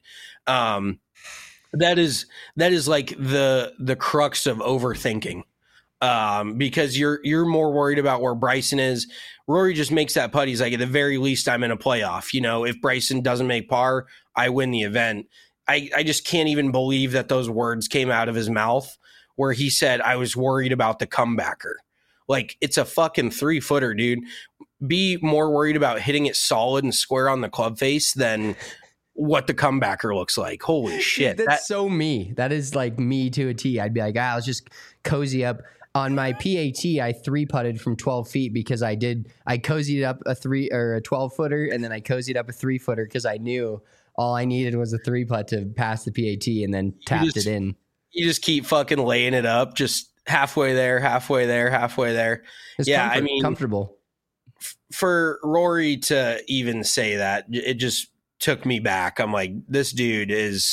That is like the crux of overthinking. Because you're more worried about where Bryson is. Rory just makes that putt. He's like, at the very least, I'm in a playoff. You know, if Bryson doesn't make par, I win the event. I just can't even believe that those words came out of his mouth where he said, I was worried about the comebacker. Like, it's a fucking 3-footer, dude. Be more worried about hitting it solid and square on the club face than what the comebacker looks like. Holy shit. That's so me. That is like me to a T. I'd be like, let's just cozy up. On my PAT, I 3-putted from 12 feet because I cozied up a 12-footer, and then I cozied up a 3-footer because I knew all I needed was a 3-putt to pass the PAT and then tapped it in. You just keep fucking laying it up, just halfway there, halfway there, halfway there. It's comfortable. For Rory to even say that, it just took me back. I'm like, this dude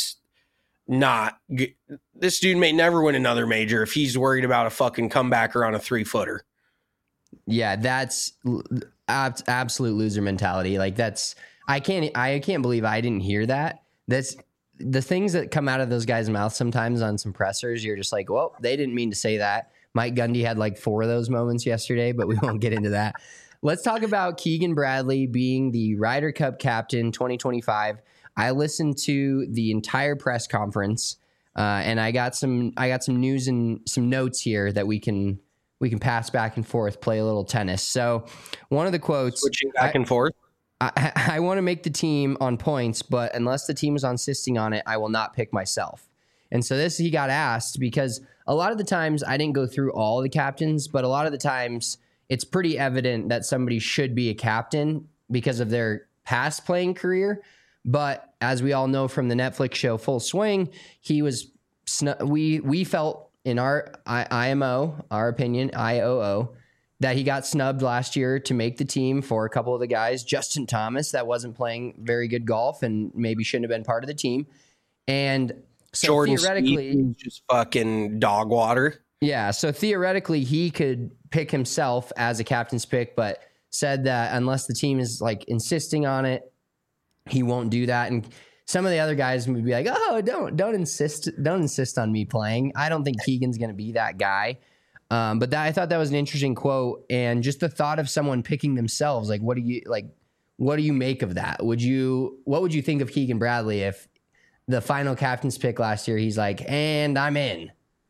may never win another major if he's worried about a fucking comebacker on a 3-footer. Yeah, that's absolute loser mentality. Like I can't believe I didn't hear that. That's the things that come out of those guys' mouths sometimes on some pressers. You're just like, well, they didn't mean to say that. Mike Gundy had like 4 of those moments yesterday, but we won't get into that. Let's talk about Keegan Bradley being the Ryder Cup captain 2025. I listened to the entire press conference, and I got some news and some notes here that we can pass back and forth, play a little tennis. So, one of the quotes, switching back and forth. I want to make the team on points, but unless the team is insisting on it, I will not pick myself. And so this, he got asked because a lot of the times I didn't go through all of the captains, but a lot of the times it's pretty evident that somebody should be a captain because of their past playing career. But as we all know from the Netflix show Full Swing, he was we felt in our IMO, our opinion, IOO, that he got snubbed last year to make the team for a couple of the guys. Justin Thomas, that wasn't playing very good golf and maybe shouldn't have been part of the team. And so Jordan theoretically, Spieth, just fucking dog water. Yeah, so theoretically he could pick himself as a captain's pick, but said that unless the team is like insisting on it, he won't do that. And some of the other guys would be like, "Oh, don't insist on me playing." I don't think Keegan's going to be that guy. But I thought that was an interesting quote, and just the thought of someone picking themselves. Like, what do you make of that? What would you think of Keegan Bradley if the final captain's pick last year, he's like, "And I'm in."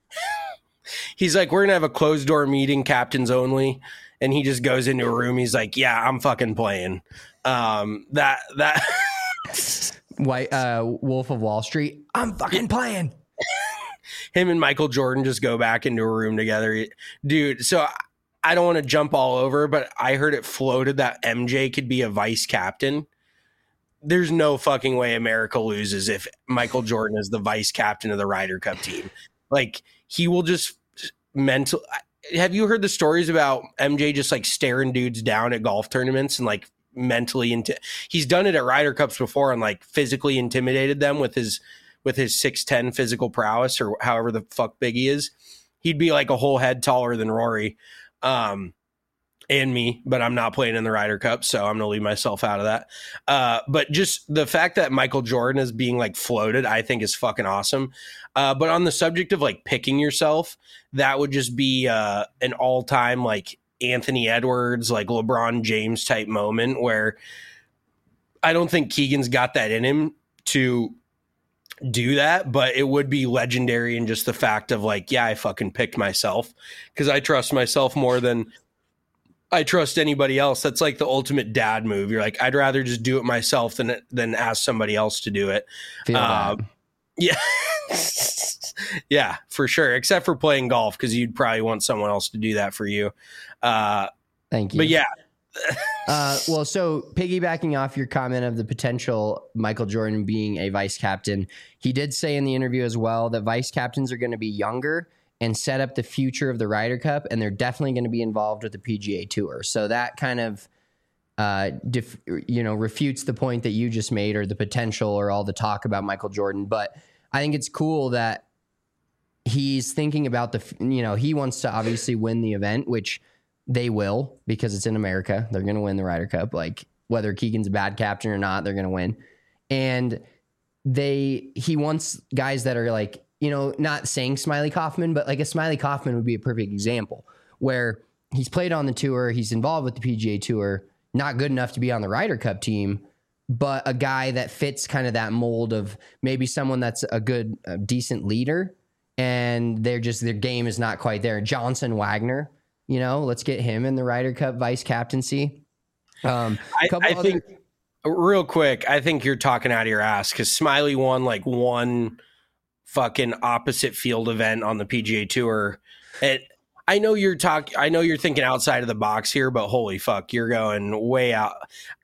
He's like, "We're going to have a closed door meeting, captains only." And he just goes into a room. He's like, "Yeah, I'm fucking playing." That White Wolf of Wall Street. I'm fucking playing. Him and Michael Jordan just go back into a room together, dude. So I don't want to jump all over, but I heard it floated that MJ could be a vice captain. There's no fucking way America loses if Michael Jordan is the vice captain of the Ryder Cup team. Like, he will just have you heard the stories about MJ just like staring dudes down at golf tournaments and like mentally he's done it at Ryder Cups before and like physically intimidated them with his 6'10" physical prowess or however the fuck big he is. He'd be like a whole head taller than Rory and me, but I'm not playing in the Ryder Cup, so I'm going to leave myself out of that. But just the fact that Michael Jordan is being like floated, I think is fucking awesome. But on the subject of like picking yourself, that would just be an all-time like Anthony Edwards, like LeBron James type moment where I don't think Keegan's got that in him to do that, but it would be legendary in just the fact of like, yeah, I fucking picked myself because I trust myself more than I trust anybody else. That's like the ultimate dad move. You're like, I'd rather just do it myself than ask somebody else to do it. Yeah. Yeah, for sure. Except for playing golf, because you'd probably want someone else to do that for you. Thank you. But yeah. Well, so piggybacking off your comment of the potential Michael Jordan being a vice captain, he did say in the interview as well that vice captains are going to be younger and set up the future of the Ryder Cup, and they're definitely going to be involved with the PGA Tour. So that kind of refutes the point that you just made, or the potential, or all the talk about Michael Jordan. But I think it's cool that he's thinking about he wants to obviously win the event, which they will, because it's in America. They're going to win the Ryder Cup. Like, whether Keegan's a bad captain or not, they're going to win. And he wants guys that are like, not saying Smiley Kaufman, but like a Smiley Kaufman would be a perfect example, where he's played on the tour, he's involved with the PGA Tour, not good enough to be on the Ryder Cup team, but a guy that fits kind of that mold of maybe someone that's a decent leader, and their game is not quite there. Johnson Wagner, let's get him in the Ryder Cup vice captaincy. Real quick, I think you're talking out of your ass because Smiley won like one fucking opposite field event on the PGA Tour. I know you're thinking outside of the box here, but holy fuck, you're going way out.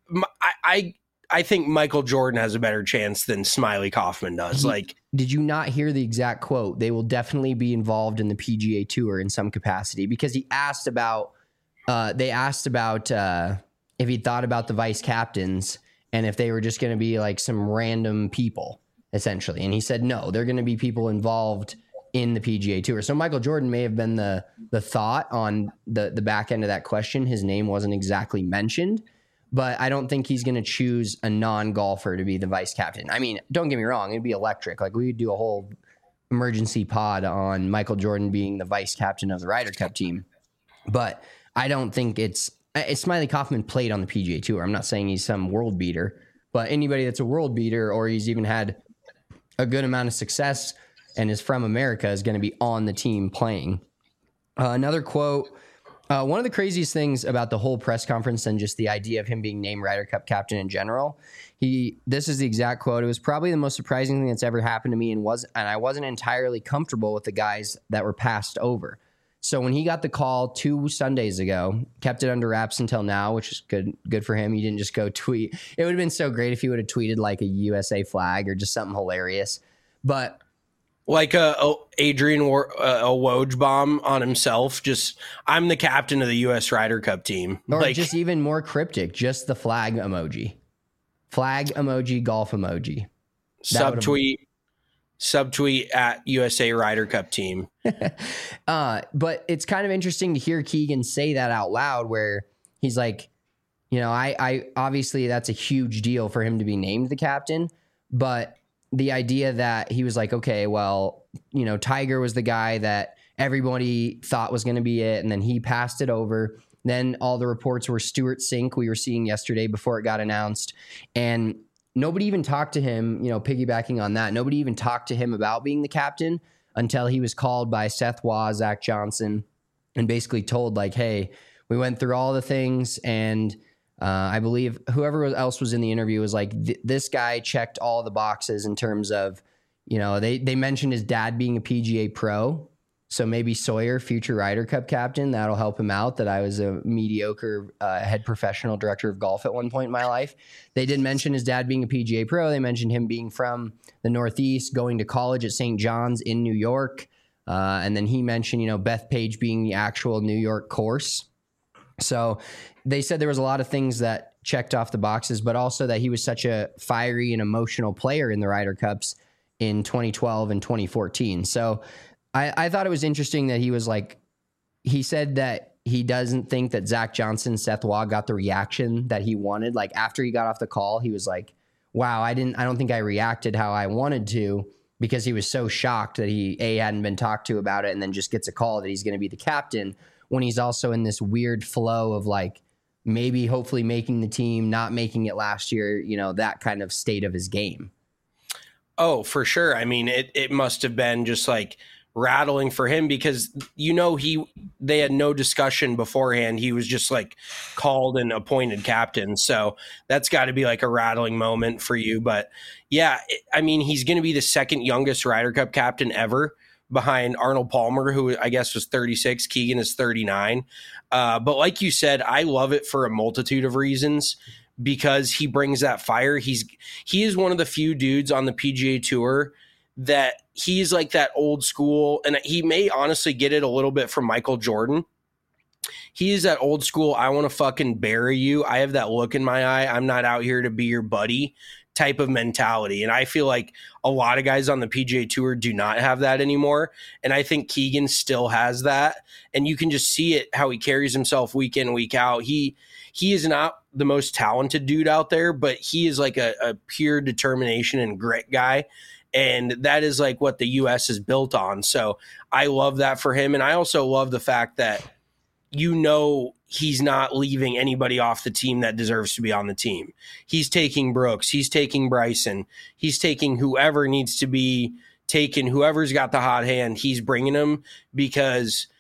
I think Michael Jordan has a better chance than Smiley Kaufman does. Did you not hear the exact quote? They will definitely be involved in the PGA Tour in some capacity, because he asked about. They asked about if he thought about the vice captains and if they were just going to be like some random people, essentially. And he said, no, they're going to be people involved in the PGA Tour. So Michael Jordan may have been the thought on the back end of that question. His name wasn't exactly mentioned, but I don't think he's going to choose a non-golfer to be the vice captain. I mean, don't get me wrong. It'd be electric. Like, we would do a whole emergency pod on Michael Jordan being the vice captain of the Ryder Cup team. But I don't think it's Smiley Kaufman played on the PGA Tour. I'm not saying he's some world beater, but anybody that's a world beater, or he's even had a good amount of success and is from America, is going to be on the team playing. Another quote, one of the craziest things about the whole press conference and just the idea of him being named Ryder Cup captain in general, this is the exact quote. It was probably the most surprising thing that's ever happened to me, and I wasn't entirely comfortable with the guys that were passed over. So when he got the call 2 Sundays ago, kept it under wraps until now, which is good for him. He didn't just go tweet. It would have been so great if he would have tweeted like a USA flag or just something hilarious. But like Adrian Wojbomb on himself, just, I'm the captain of the U.S. Ryder Cup team. Or just even more cryptic, just the flag emoji. Flag emoji, golf emoji. Subtweet at USA Ryder Cup team. But it's kind of interesting to hear Keegan say that out loud, where he's like, I obviously that's a huge deal for him to be named the captain, but the idea that he was like, okay, well, Tiger was the guy that everybody thought was going to be it, and then he passed it over. Then all the reports were Stewart Cink, we were seeing yesterday before it got announced, and nobody even talked to him, piggybacking on that. Nobody even talked to him about being the captain until he was called by Seth Waugh, Zach Johnson, and basically told like, hey, we went through all the things. And I believe whoever else was in the interview was like, this guy checked all the boxes in terms of, they mentioned his dad being a PGA pro. So maybe Sawyer, future Ryder Cup captain, that'll help him out. That I was a mediocre head professional director of golf at one point in my life. They did mention his dad being a PGA pro. They mentioned him being from the Northeast, going to college at St. John's in New York. And then he mentioned, Bethpage being the actual New York course. So they said there was a lot of things that checked off the boxes, but also that he was such a fiery and emotional player in the Ryder Cups in 2012 and 2014. So I thought it was interesting that he was like, he said that he doesn't think that Zach Johnson, Seth Waugh got the reaction that he wanted. Like after he got off the call, he was like, wow, I don't think I reacted how I wanted to, because he was so shocked that he hadn't been talked to about it, and then just gets a call that he's going to be the captain when he's also in this weird flow of like maybe hopefully making the team, not making it last year, that kind of state of his game. Oh, for sure. I mean, it must have been just like rattling for him, because they had no discussion beforehand. He was just like called and appointed captain. So that's got to be like a rattling moment for you. But yeah, he's going to be the second youngest Ryder Cup captain ever, behind Arnold Palmer, who I guess was 36. Keegan is 39. But like you said, I love it for a multitude of reasons, because he brings that fire. He is one of the few dudes on the PGA Tour that he's like that old school, and he may honestly get it a little bit from Michael Jordan. He is that old school, I want to fucking bury you, I have that look in my eye, I'm not out here to be your buddy type of mentality. And I feel like a lot of guys on the PGA Tour do not have that anymore. And I think Keegan still has that. And you can just see it, how he carries himself week in, week out. He is not the most talented dude out there, but he is like a pure determination and grit guy. And that is like what the U.S. is built on. So I love that for him. And I also love the fact that, he's not leaving anybody off the team that deserves to be on the team. He's taking Brooks. He's taking Bryson. He's taking whoever needs to be taken. Whoever's got the hot hand, he's bringing them, because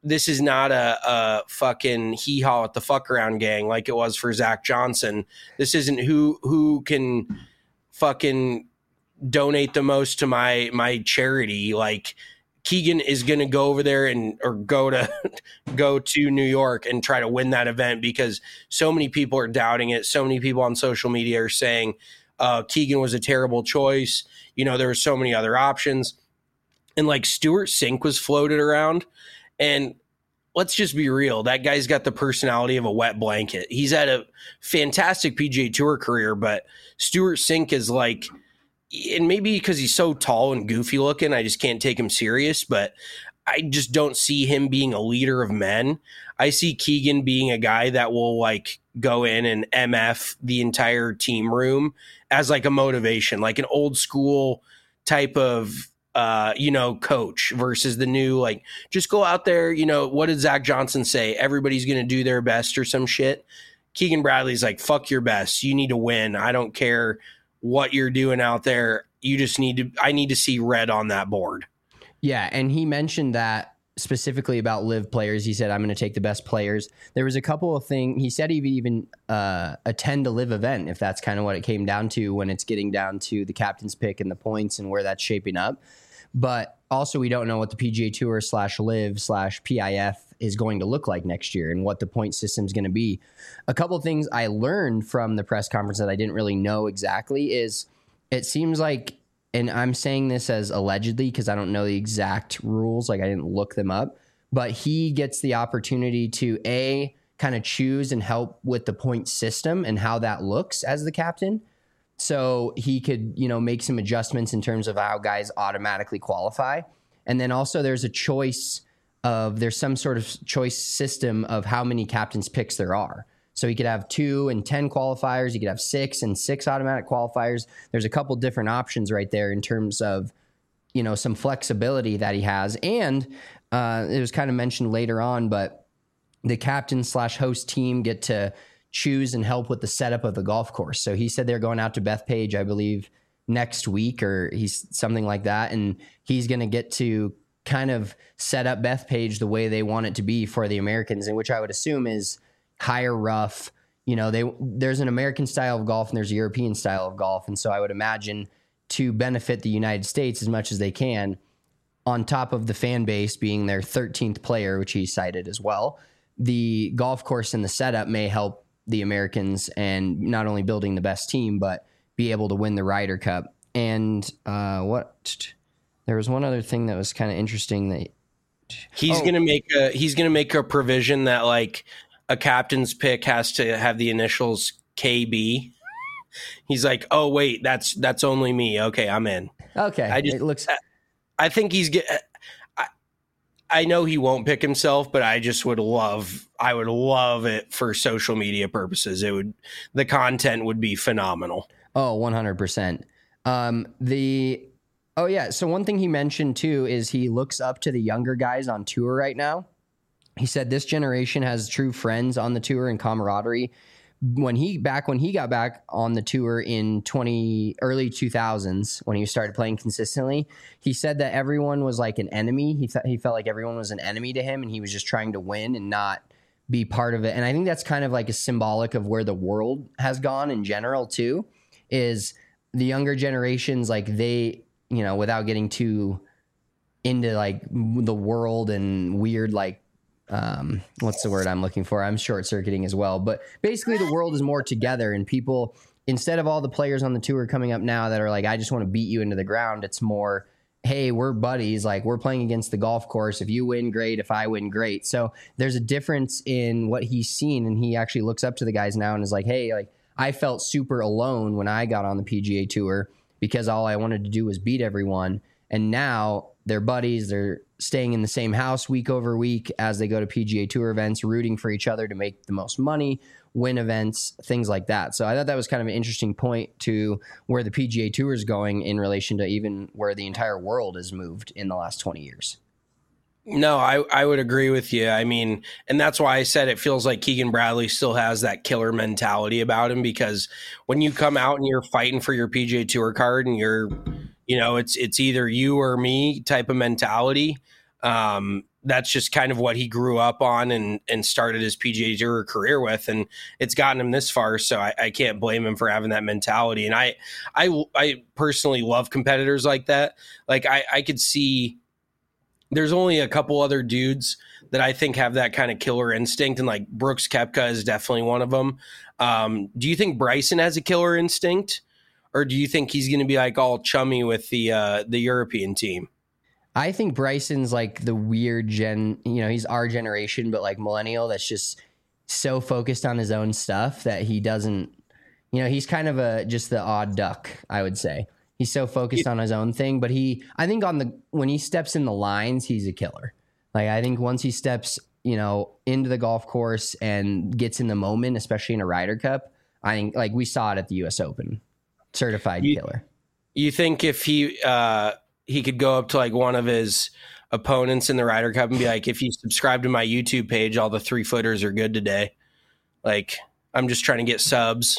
this is not a fucking hee-haw at the fuck around gang like it was for Zach Johnson. This isn't who can fucking donate the most to my charity. Like, Keegan is going to go over there or go to New York and try to win that event, because so many people are doubting it. So many people on social media are saying Keegan was a terrible choice. There were so many other options. And like Stuart Sink was floated around. And let's just be real. That guy's got the personality of a wet blanket. He's had a fantastic PGA Tour career, but Stuart Sink is like, and maybe because he's so tall and goofy looking, I just can't take him serious, but I just don't see him being a leader of men. I see Keegan being a guy that will like go in and MF the entire team room as like a motivation, like an old school type of coach versus the new, like, just go out there. What did Zach Johnson say? Everybody's going to do their best or some shit. Keegan Bradley's like, fuck your best. You need to win. I don't care what you're doing out there. I need to see red on that board. Yeah. And he mentioned that specifically about live players. He said, I'm going to take the best players. There was a couple of things. He said he'd even attend a live event if that's kind of what it came down to, when it's getting down to the captain's pick and the points and where that's shaping up. But also, we don't know what the PGA Tour /live/PIF is going to look like next year and what the point system is going to be. A couple of things I learned from the press conference that I didn't really know exactly is it seems like, and I'm saying this as allegedly because I don't know the exact rules, like I didn't look them up, but he gets the opportunity to kind of choose and help with the point system and how that looks as the captain. So he could, make some adjustments in terms of how guys automatically qualify. And then also there's some sort of choice system of how many captain's picks there are. So he could have 2 and 10 qualifiers. He could have 6 and 6 automatic qualifiers. There's a couple different options right there in terms of, some flexibility that he has. And it was kind of mentioned later on, but the captain/host team get to choose and help with the setup of the golf course. So he said they're going out to Bethpage, I believe, next week or he's something like that. And he's going to get to kind of set up Bethpage the way they want it to be for the Americans, and which I would assume is higher rough. There's an American style of golf and there's a European style of golf. And so I would imagine to benefit the United States as much as they can, on top of the fan base being their 13th player, which he cited as well, the golf course and the setup may help the Americans and not only building the best team, but be able to win the Ryder Cup. And there was one other thing that was kind of interesting that he's going to make a provision that like a captain's pick has to have the initials KB. He's like, oh wait, that's only me. Okay, I'm in. Okay, I think I know he won't pick himself, but I would love it for social media purposes. The content would be phenomenal. Oh, 100%. So one thing he mentioned too is he looks up to the younger guys on tour right now. He said this generation has true friends on the tour and camaraderie. When he got back on the tour in early 2000s, when he started playing consistently, he said that everyone was like an enemy. He felt like everyone was an enemy to him, and he was just trying to win and not be part of it. And I think that's kind of like a symbolic of where the world has gone in general too, is the younger generations, like they, without getting too into like the world and weird, like, what's the word I'm looking for? I'm short circuiting as well, but basically the world is more together, and people, instead of all the players on the tour coming up now that are like, I just want to beat you into the ground. It's more, hey, we're buddies. Like, we're playing against the golf course. If you win, great. If I win, great. So there's a difference in what he's seen. And he actually looks up to the guys now and is like, hey, like I felt super alone when I got on the PGA Tour because all I wanted to do was beat everyone. And now they're buddies. They're staying in the same house week over week as they go to PGA Tour events, rooting for each other to make the most money, win events, things like that. So I thought that was kind of an interesting point to where the PGA Tour is going in relation to even where the entire world has moved in the last 20 years. No, I would agree with you. I mean, and that's why I said it feels like Keegan Bradley still has that killer mentality about him, because when you come out and you're fighting for your PGA Tour card and you're, it's either you or me type of mentality, that's just kind of what he grew up on and started his PGA Tour career with, and it's gotten him this far. So I can't blame him for having that mentality. And I personally love competitors like that. Like I could see there's only a couple other dudes that I think have that kind of killer instinct, and like Brooks Koepka is definitely one of them. Do you think Bryson has a killer instinct, or do you think he's going to be like all chummy with the European team? I think Bryson's like the weird he's our generation, but like millennial that's just so focused on his own stuff that he doesn't, he's kind of just the odd duck, I would say. He's so focused on his own thing, but I think when he steps in the lines, he's a killer. Like, I think once he steps, into the golf course and gets in the moment, especially in a Ryder Cup, I think like we saw it at the US Open, certified killer. You think if he could go up to like one of his opponents in the Ryder Cup and be like, if you subscribe to my YouTube page, all the 3-footers are good today. Like, I'm just trying to get subs.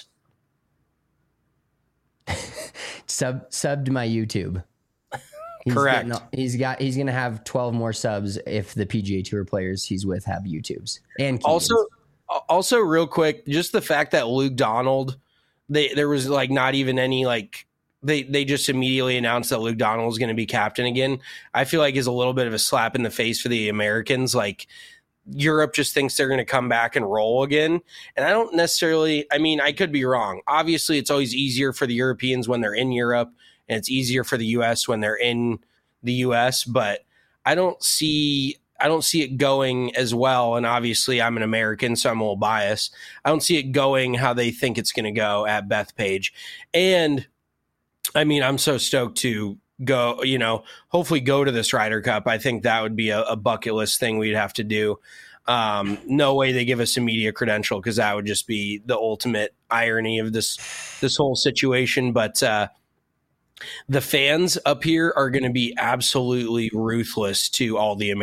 Sub to my YouTube. Correct. He's going to have 12 more subs if the PGA Tour players he's with have YouTubes. And also real quick, just the fact that Luke Donald, there was like not even any like, They just immediately announced that Luke Donald is going to be captain again. I feel like is a little bit of a slap in the face for the Americans. Like, Europe just thinks they're going to come back and roll again. And I don't necessarily, I could be wrong. Obviously, it's always easier for the Europeans when they're in Europe, and it's easier for the US when they're in the US, but I don't see it going as well. And obviously I'm an American, so I'm a little biased. I don't see it going how they think it's going to go at Bethpage. And I'm so stoked to go, hopefully go to this Ryder Cup. I think that would be a bucket list thing we'd have to do. No way they give us a media credential, because that would just be the ultimate irony of this whole situation. But the fans up here are going to be absolutely ruthless to all the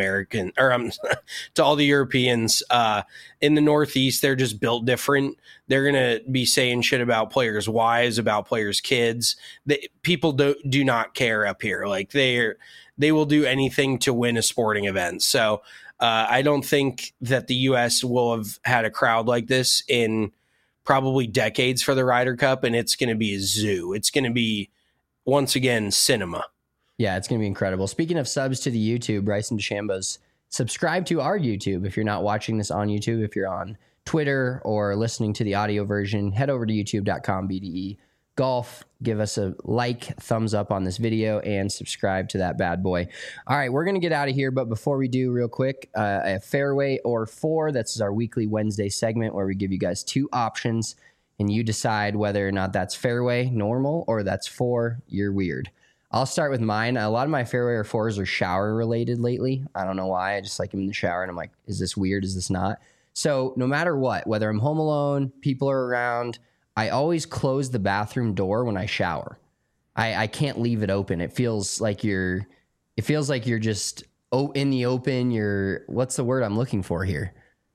to all the Europeans. In the Northeast, they're just built different. They're going to be saying shit about players' wives, about players' kids. People do not care up here. Like, they will do anything to win a sporting event. So I don't think that the U.S. will have had a crowd like this in probably decades for the Ryder Cup, and it's going to be a zoo. It's going to be, once again, cinema. Yeah, it's going to be incredible. Speaking of subs to the YouTube, Bryson DeChambeau's subscribe to our YouTube. If you're not watching this on YouTube, if you're on Twitter or listening to the audio version, head over to youtube.com BDE Golf. Give us a like, thumbs up on this video, and subscribe to that bad boy. All right, we're going to get out of here, but before we do, real quick, a fairway or four. That's our weekly Wednesday segment where we give you guys 2 options, and you decide whether or not that's fairway, normal, or that's 4, you're weird. I'll start with mine. A lot of my fairway or fours are shower related lately. I don't know why. I just like them in the shower, and I'm like, is this weird? Is this not? So no matter what, whether I'm home alone, people are around, I always close the bathroom door when I shower. I can't leave it open. It feels like you're just in the open. What's the word I'm looking for here?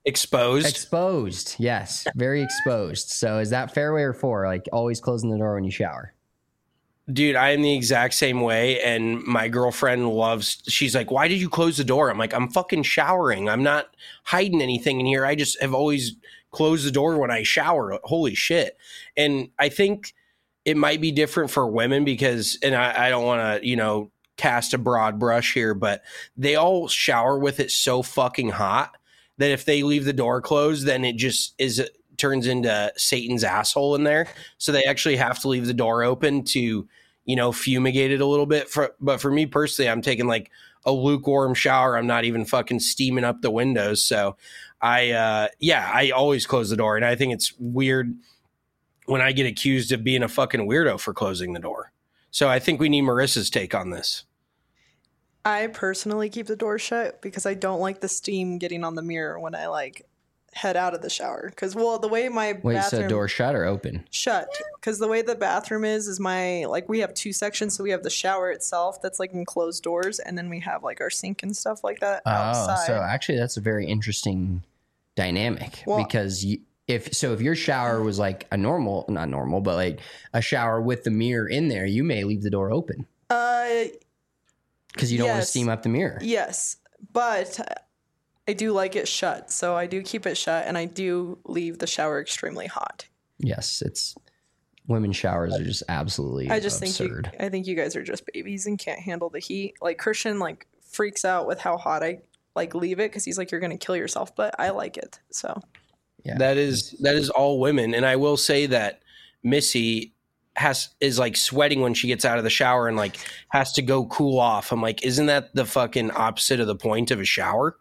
Exposed. Yes. Very exposed. So is that fairway or 4? Like, always closing the door when you shower? Dude, I am the exact same way. And my girlfriend she's like, why did you close the door? I'm like, I'm fucking showering. I'm not hiding anything in here. I just have always closed the door when I shower. Holy shit. And I think it might be different for women because, and I don't want to, cast a broad brush here, but they all shower with it so fucking hot that if they leave the door closed, then it just turns into Satan's asshole in there. So they actually have to leave the door open to, fumigate it a little bit. But for me personally, I'm taking like a lukewarm shower. I'm not even fucking steaming up the windows. So I always close the door. And I think it's weird when I get accused of being a fucking weirdo for closing the door. So I think we need Marissa's take on this. I personally keep the door shut because I don't like the steam getting on the mirror when I head out of the shower. Because, the way my bathroom... so door shut or open? Shut. Because the way the bathroom is we have 2 sections. So we have the shower itself that's enclosed doors. And then we have our sink and stuff like that outside. So actually that's a very interesting dynamic. Because if your shower was not normal, but a shower with the mirror in there, you may leave the door open. Because you don't want to steam up the mirror. Yes. But I do like it shut, so I do keep it shut, and I do leave the shower extremely hot. Yes, women's showers are just absolutely I just absurd. think you guys are just babies and can't handle the heat. Like Christian freaks out with how hot I leave it because he's like, you're gonna kill yourself, but I like it. So yeah, that is all women, and I will say that Missy is sweating when she gets out of the shower and has to go cool off. I'm like, isn't that the fucking opposite of the point of a shower?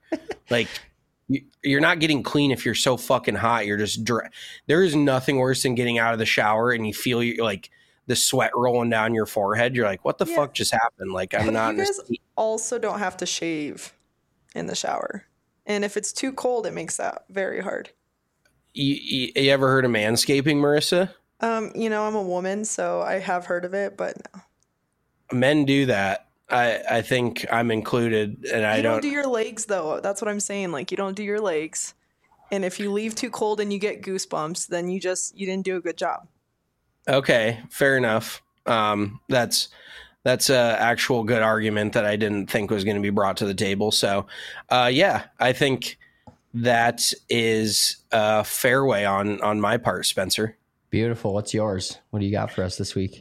You're not getting clean if you're so fucking hot. You're just there is nothing worse than getting out of the shower and you feel the sweat rolling down your forehead. You're like, what the fuck just happened? I'm not. You guys also don't have to shave in the shower, and if it's too cold, it makes that very hard. You ever heard of manscaping, Marissa? I'm a woman, so I have heard of it, but no. Men do that. I think I'm included, and I don't do your legs though. That's what I'm saying. You don't do your legs, and if you leave too cold and you get goosebumps, then you didn't do a good job. Okay, fair enough. That's a actual good argument that I didn't think was going to be brought to the table. So, yeah, I think that is a fairway on my part, Spencer. Beautiful. What's yours? What do you got for us this week?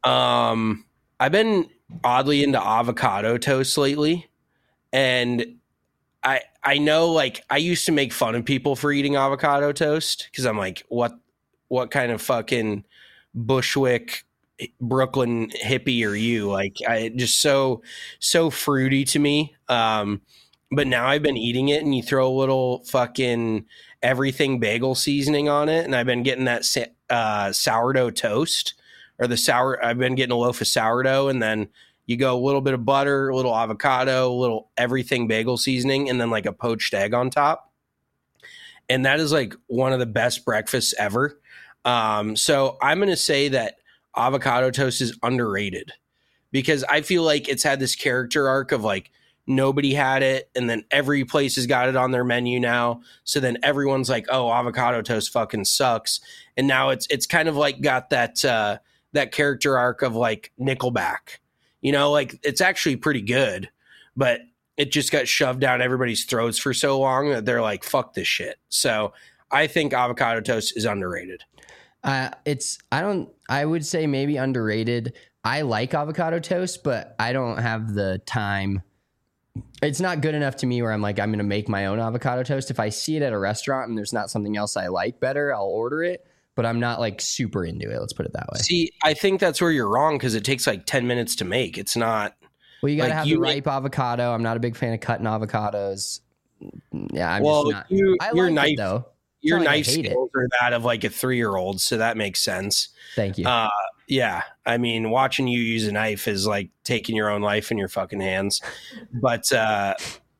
I've been oddly into avocado toast lately, and I know I used to make fun of people for eating avocado toast because I'm like, what kind of fucking Bushwick Brooklyn hippie are you? I just so fruity to me. But now I've been eating it, and you throw a little fucking everything bagel seasoning on it, and I've been getting that sourdough toast I've been getting a loaf of sourdough, and then you go a little bit of butter, a little avocado, a little everything bagel seasoning, and then a poached egg on top. And that is one of the best breakfasts ever. So I'm going to say that avocado toast is underrated because I feel like it's had this character arc of nobody had it, and then every place has got it on their menu now. So then everyone's like, oh, avocado toast fucking sucks. And now it's kind of got that character arc of Nickelback. It's actually pretty good, but it just got shoved down everybody's throats for so long that they're like, fuck this shit. So I think avocado toast is underrated. I would say maybe underrated. I like avocado toast, but I don't have the time. It's not good enough to me where I'm like, I'm going to make my own avocado toast. If I see it at a restaurant and there's not something else I like better, I'll order it. But I'm not super into it. Let's put it that way. See, I think that's where you're wrong because it takes 10 minutes to make. It's not. Well, you got to have the ripe avocado. I'm not a big fan of cutting avocados. Yeah, I'm just not. Your knife, it, though. Your knife skills are that of a 3-year-old, so that makes sense. Thank you. Yeah, I mean, watching you use a knife is taking your own life in your fucking hands. But I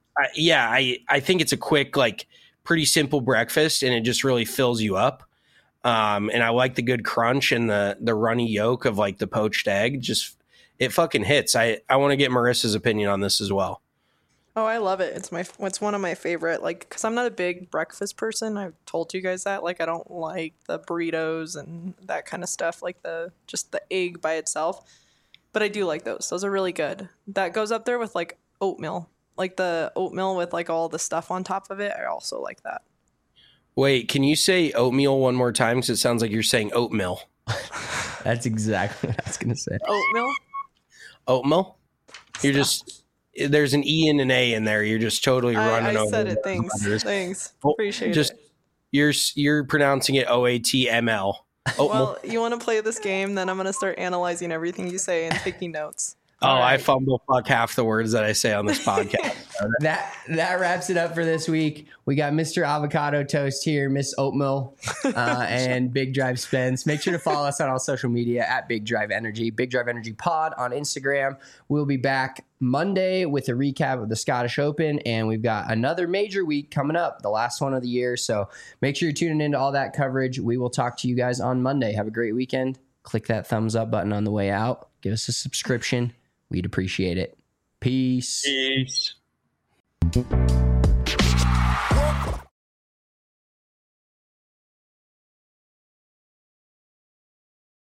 think it's a quick, pretty simple breakfast, and it just really fills you up. And I like the good crunch and the runny yolk of the poached egg. Just it fucking hits. I want to get Marissa's opinion on this as well. Oh, I love it. It's one of my favorite, because I'm not a big breakfast person. I've told you guys that. I don't like the burritos and that kind of stuff, just the egg by itself. But I do like those. Those are really good. That goes up there with oatmeal. The oatmeal with all the stuff on top of it. I also like that. Wait, can you say oatmeal one more time? Because it sounds like you're saying oatmeal. That's exactly what I was going to say. Oatmeal? You're just... There's an E and an A in there. You're just totally running over. I said it. Thanks. Appreciate it. You're pronouncing it OATML. Well, you want to play this game? Then I'm going to start analyzing everything you say and taking notes. Right. I fumble fuck half the words that I say on this podcast. That wraps it up for this week. We got Mr. Avocado Toast here, Miss Oatmeal, and Big Drive Spence. Make sure to follow us on all social media at Big Drive Energy, Big Drive Energy Pod on Instagram. We'll be back Monday with a recap of the Scottish Open, and we've got another major week coming up, the last one of the year. So make sure you're tuning into all that coverage. We will talk to you guys on Monday. Have a great weekend. Click that thumbs up button on the way out. Give us a subscription. We'd appreciate it. Peace. Peace.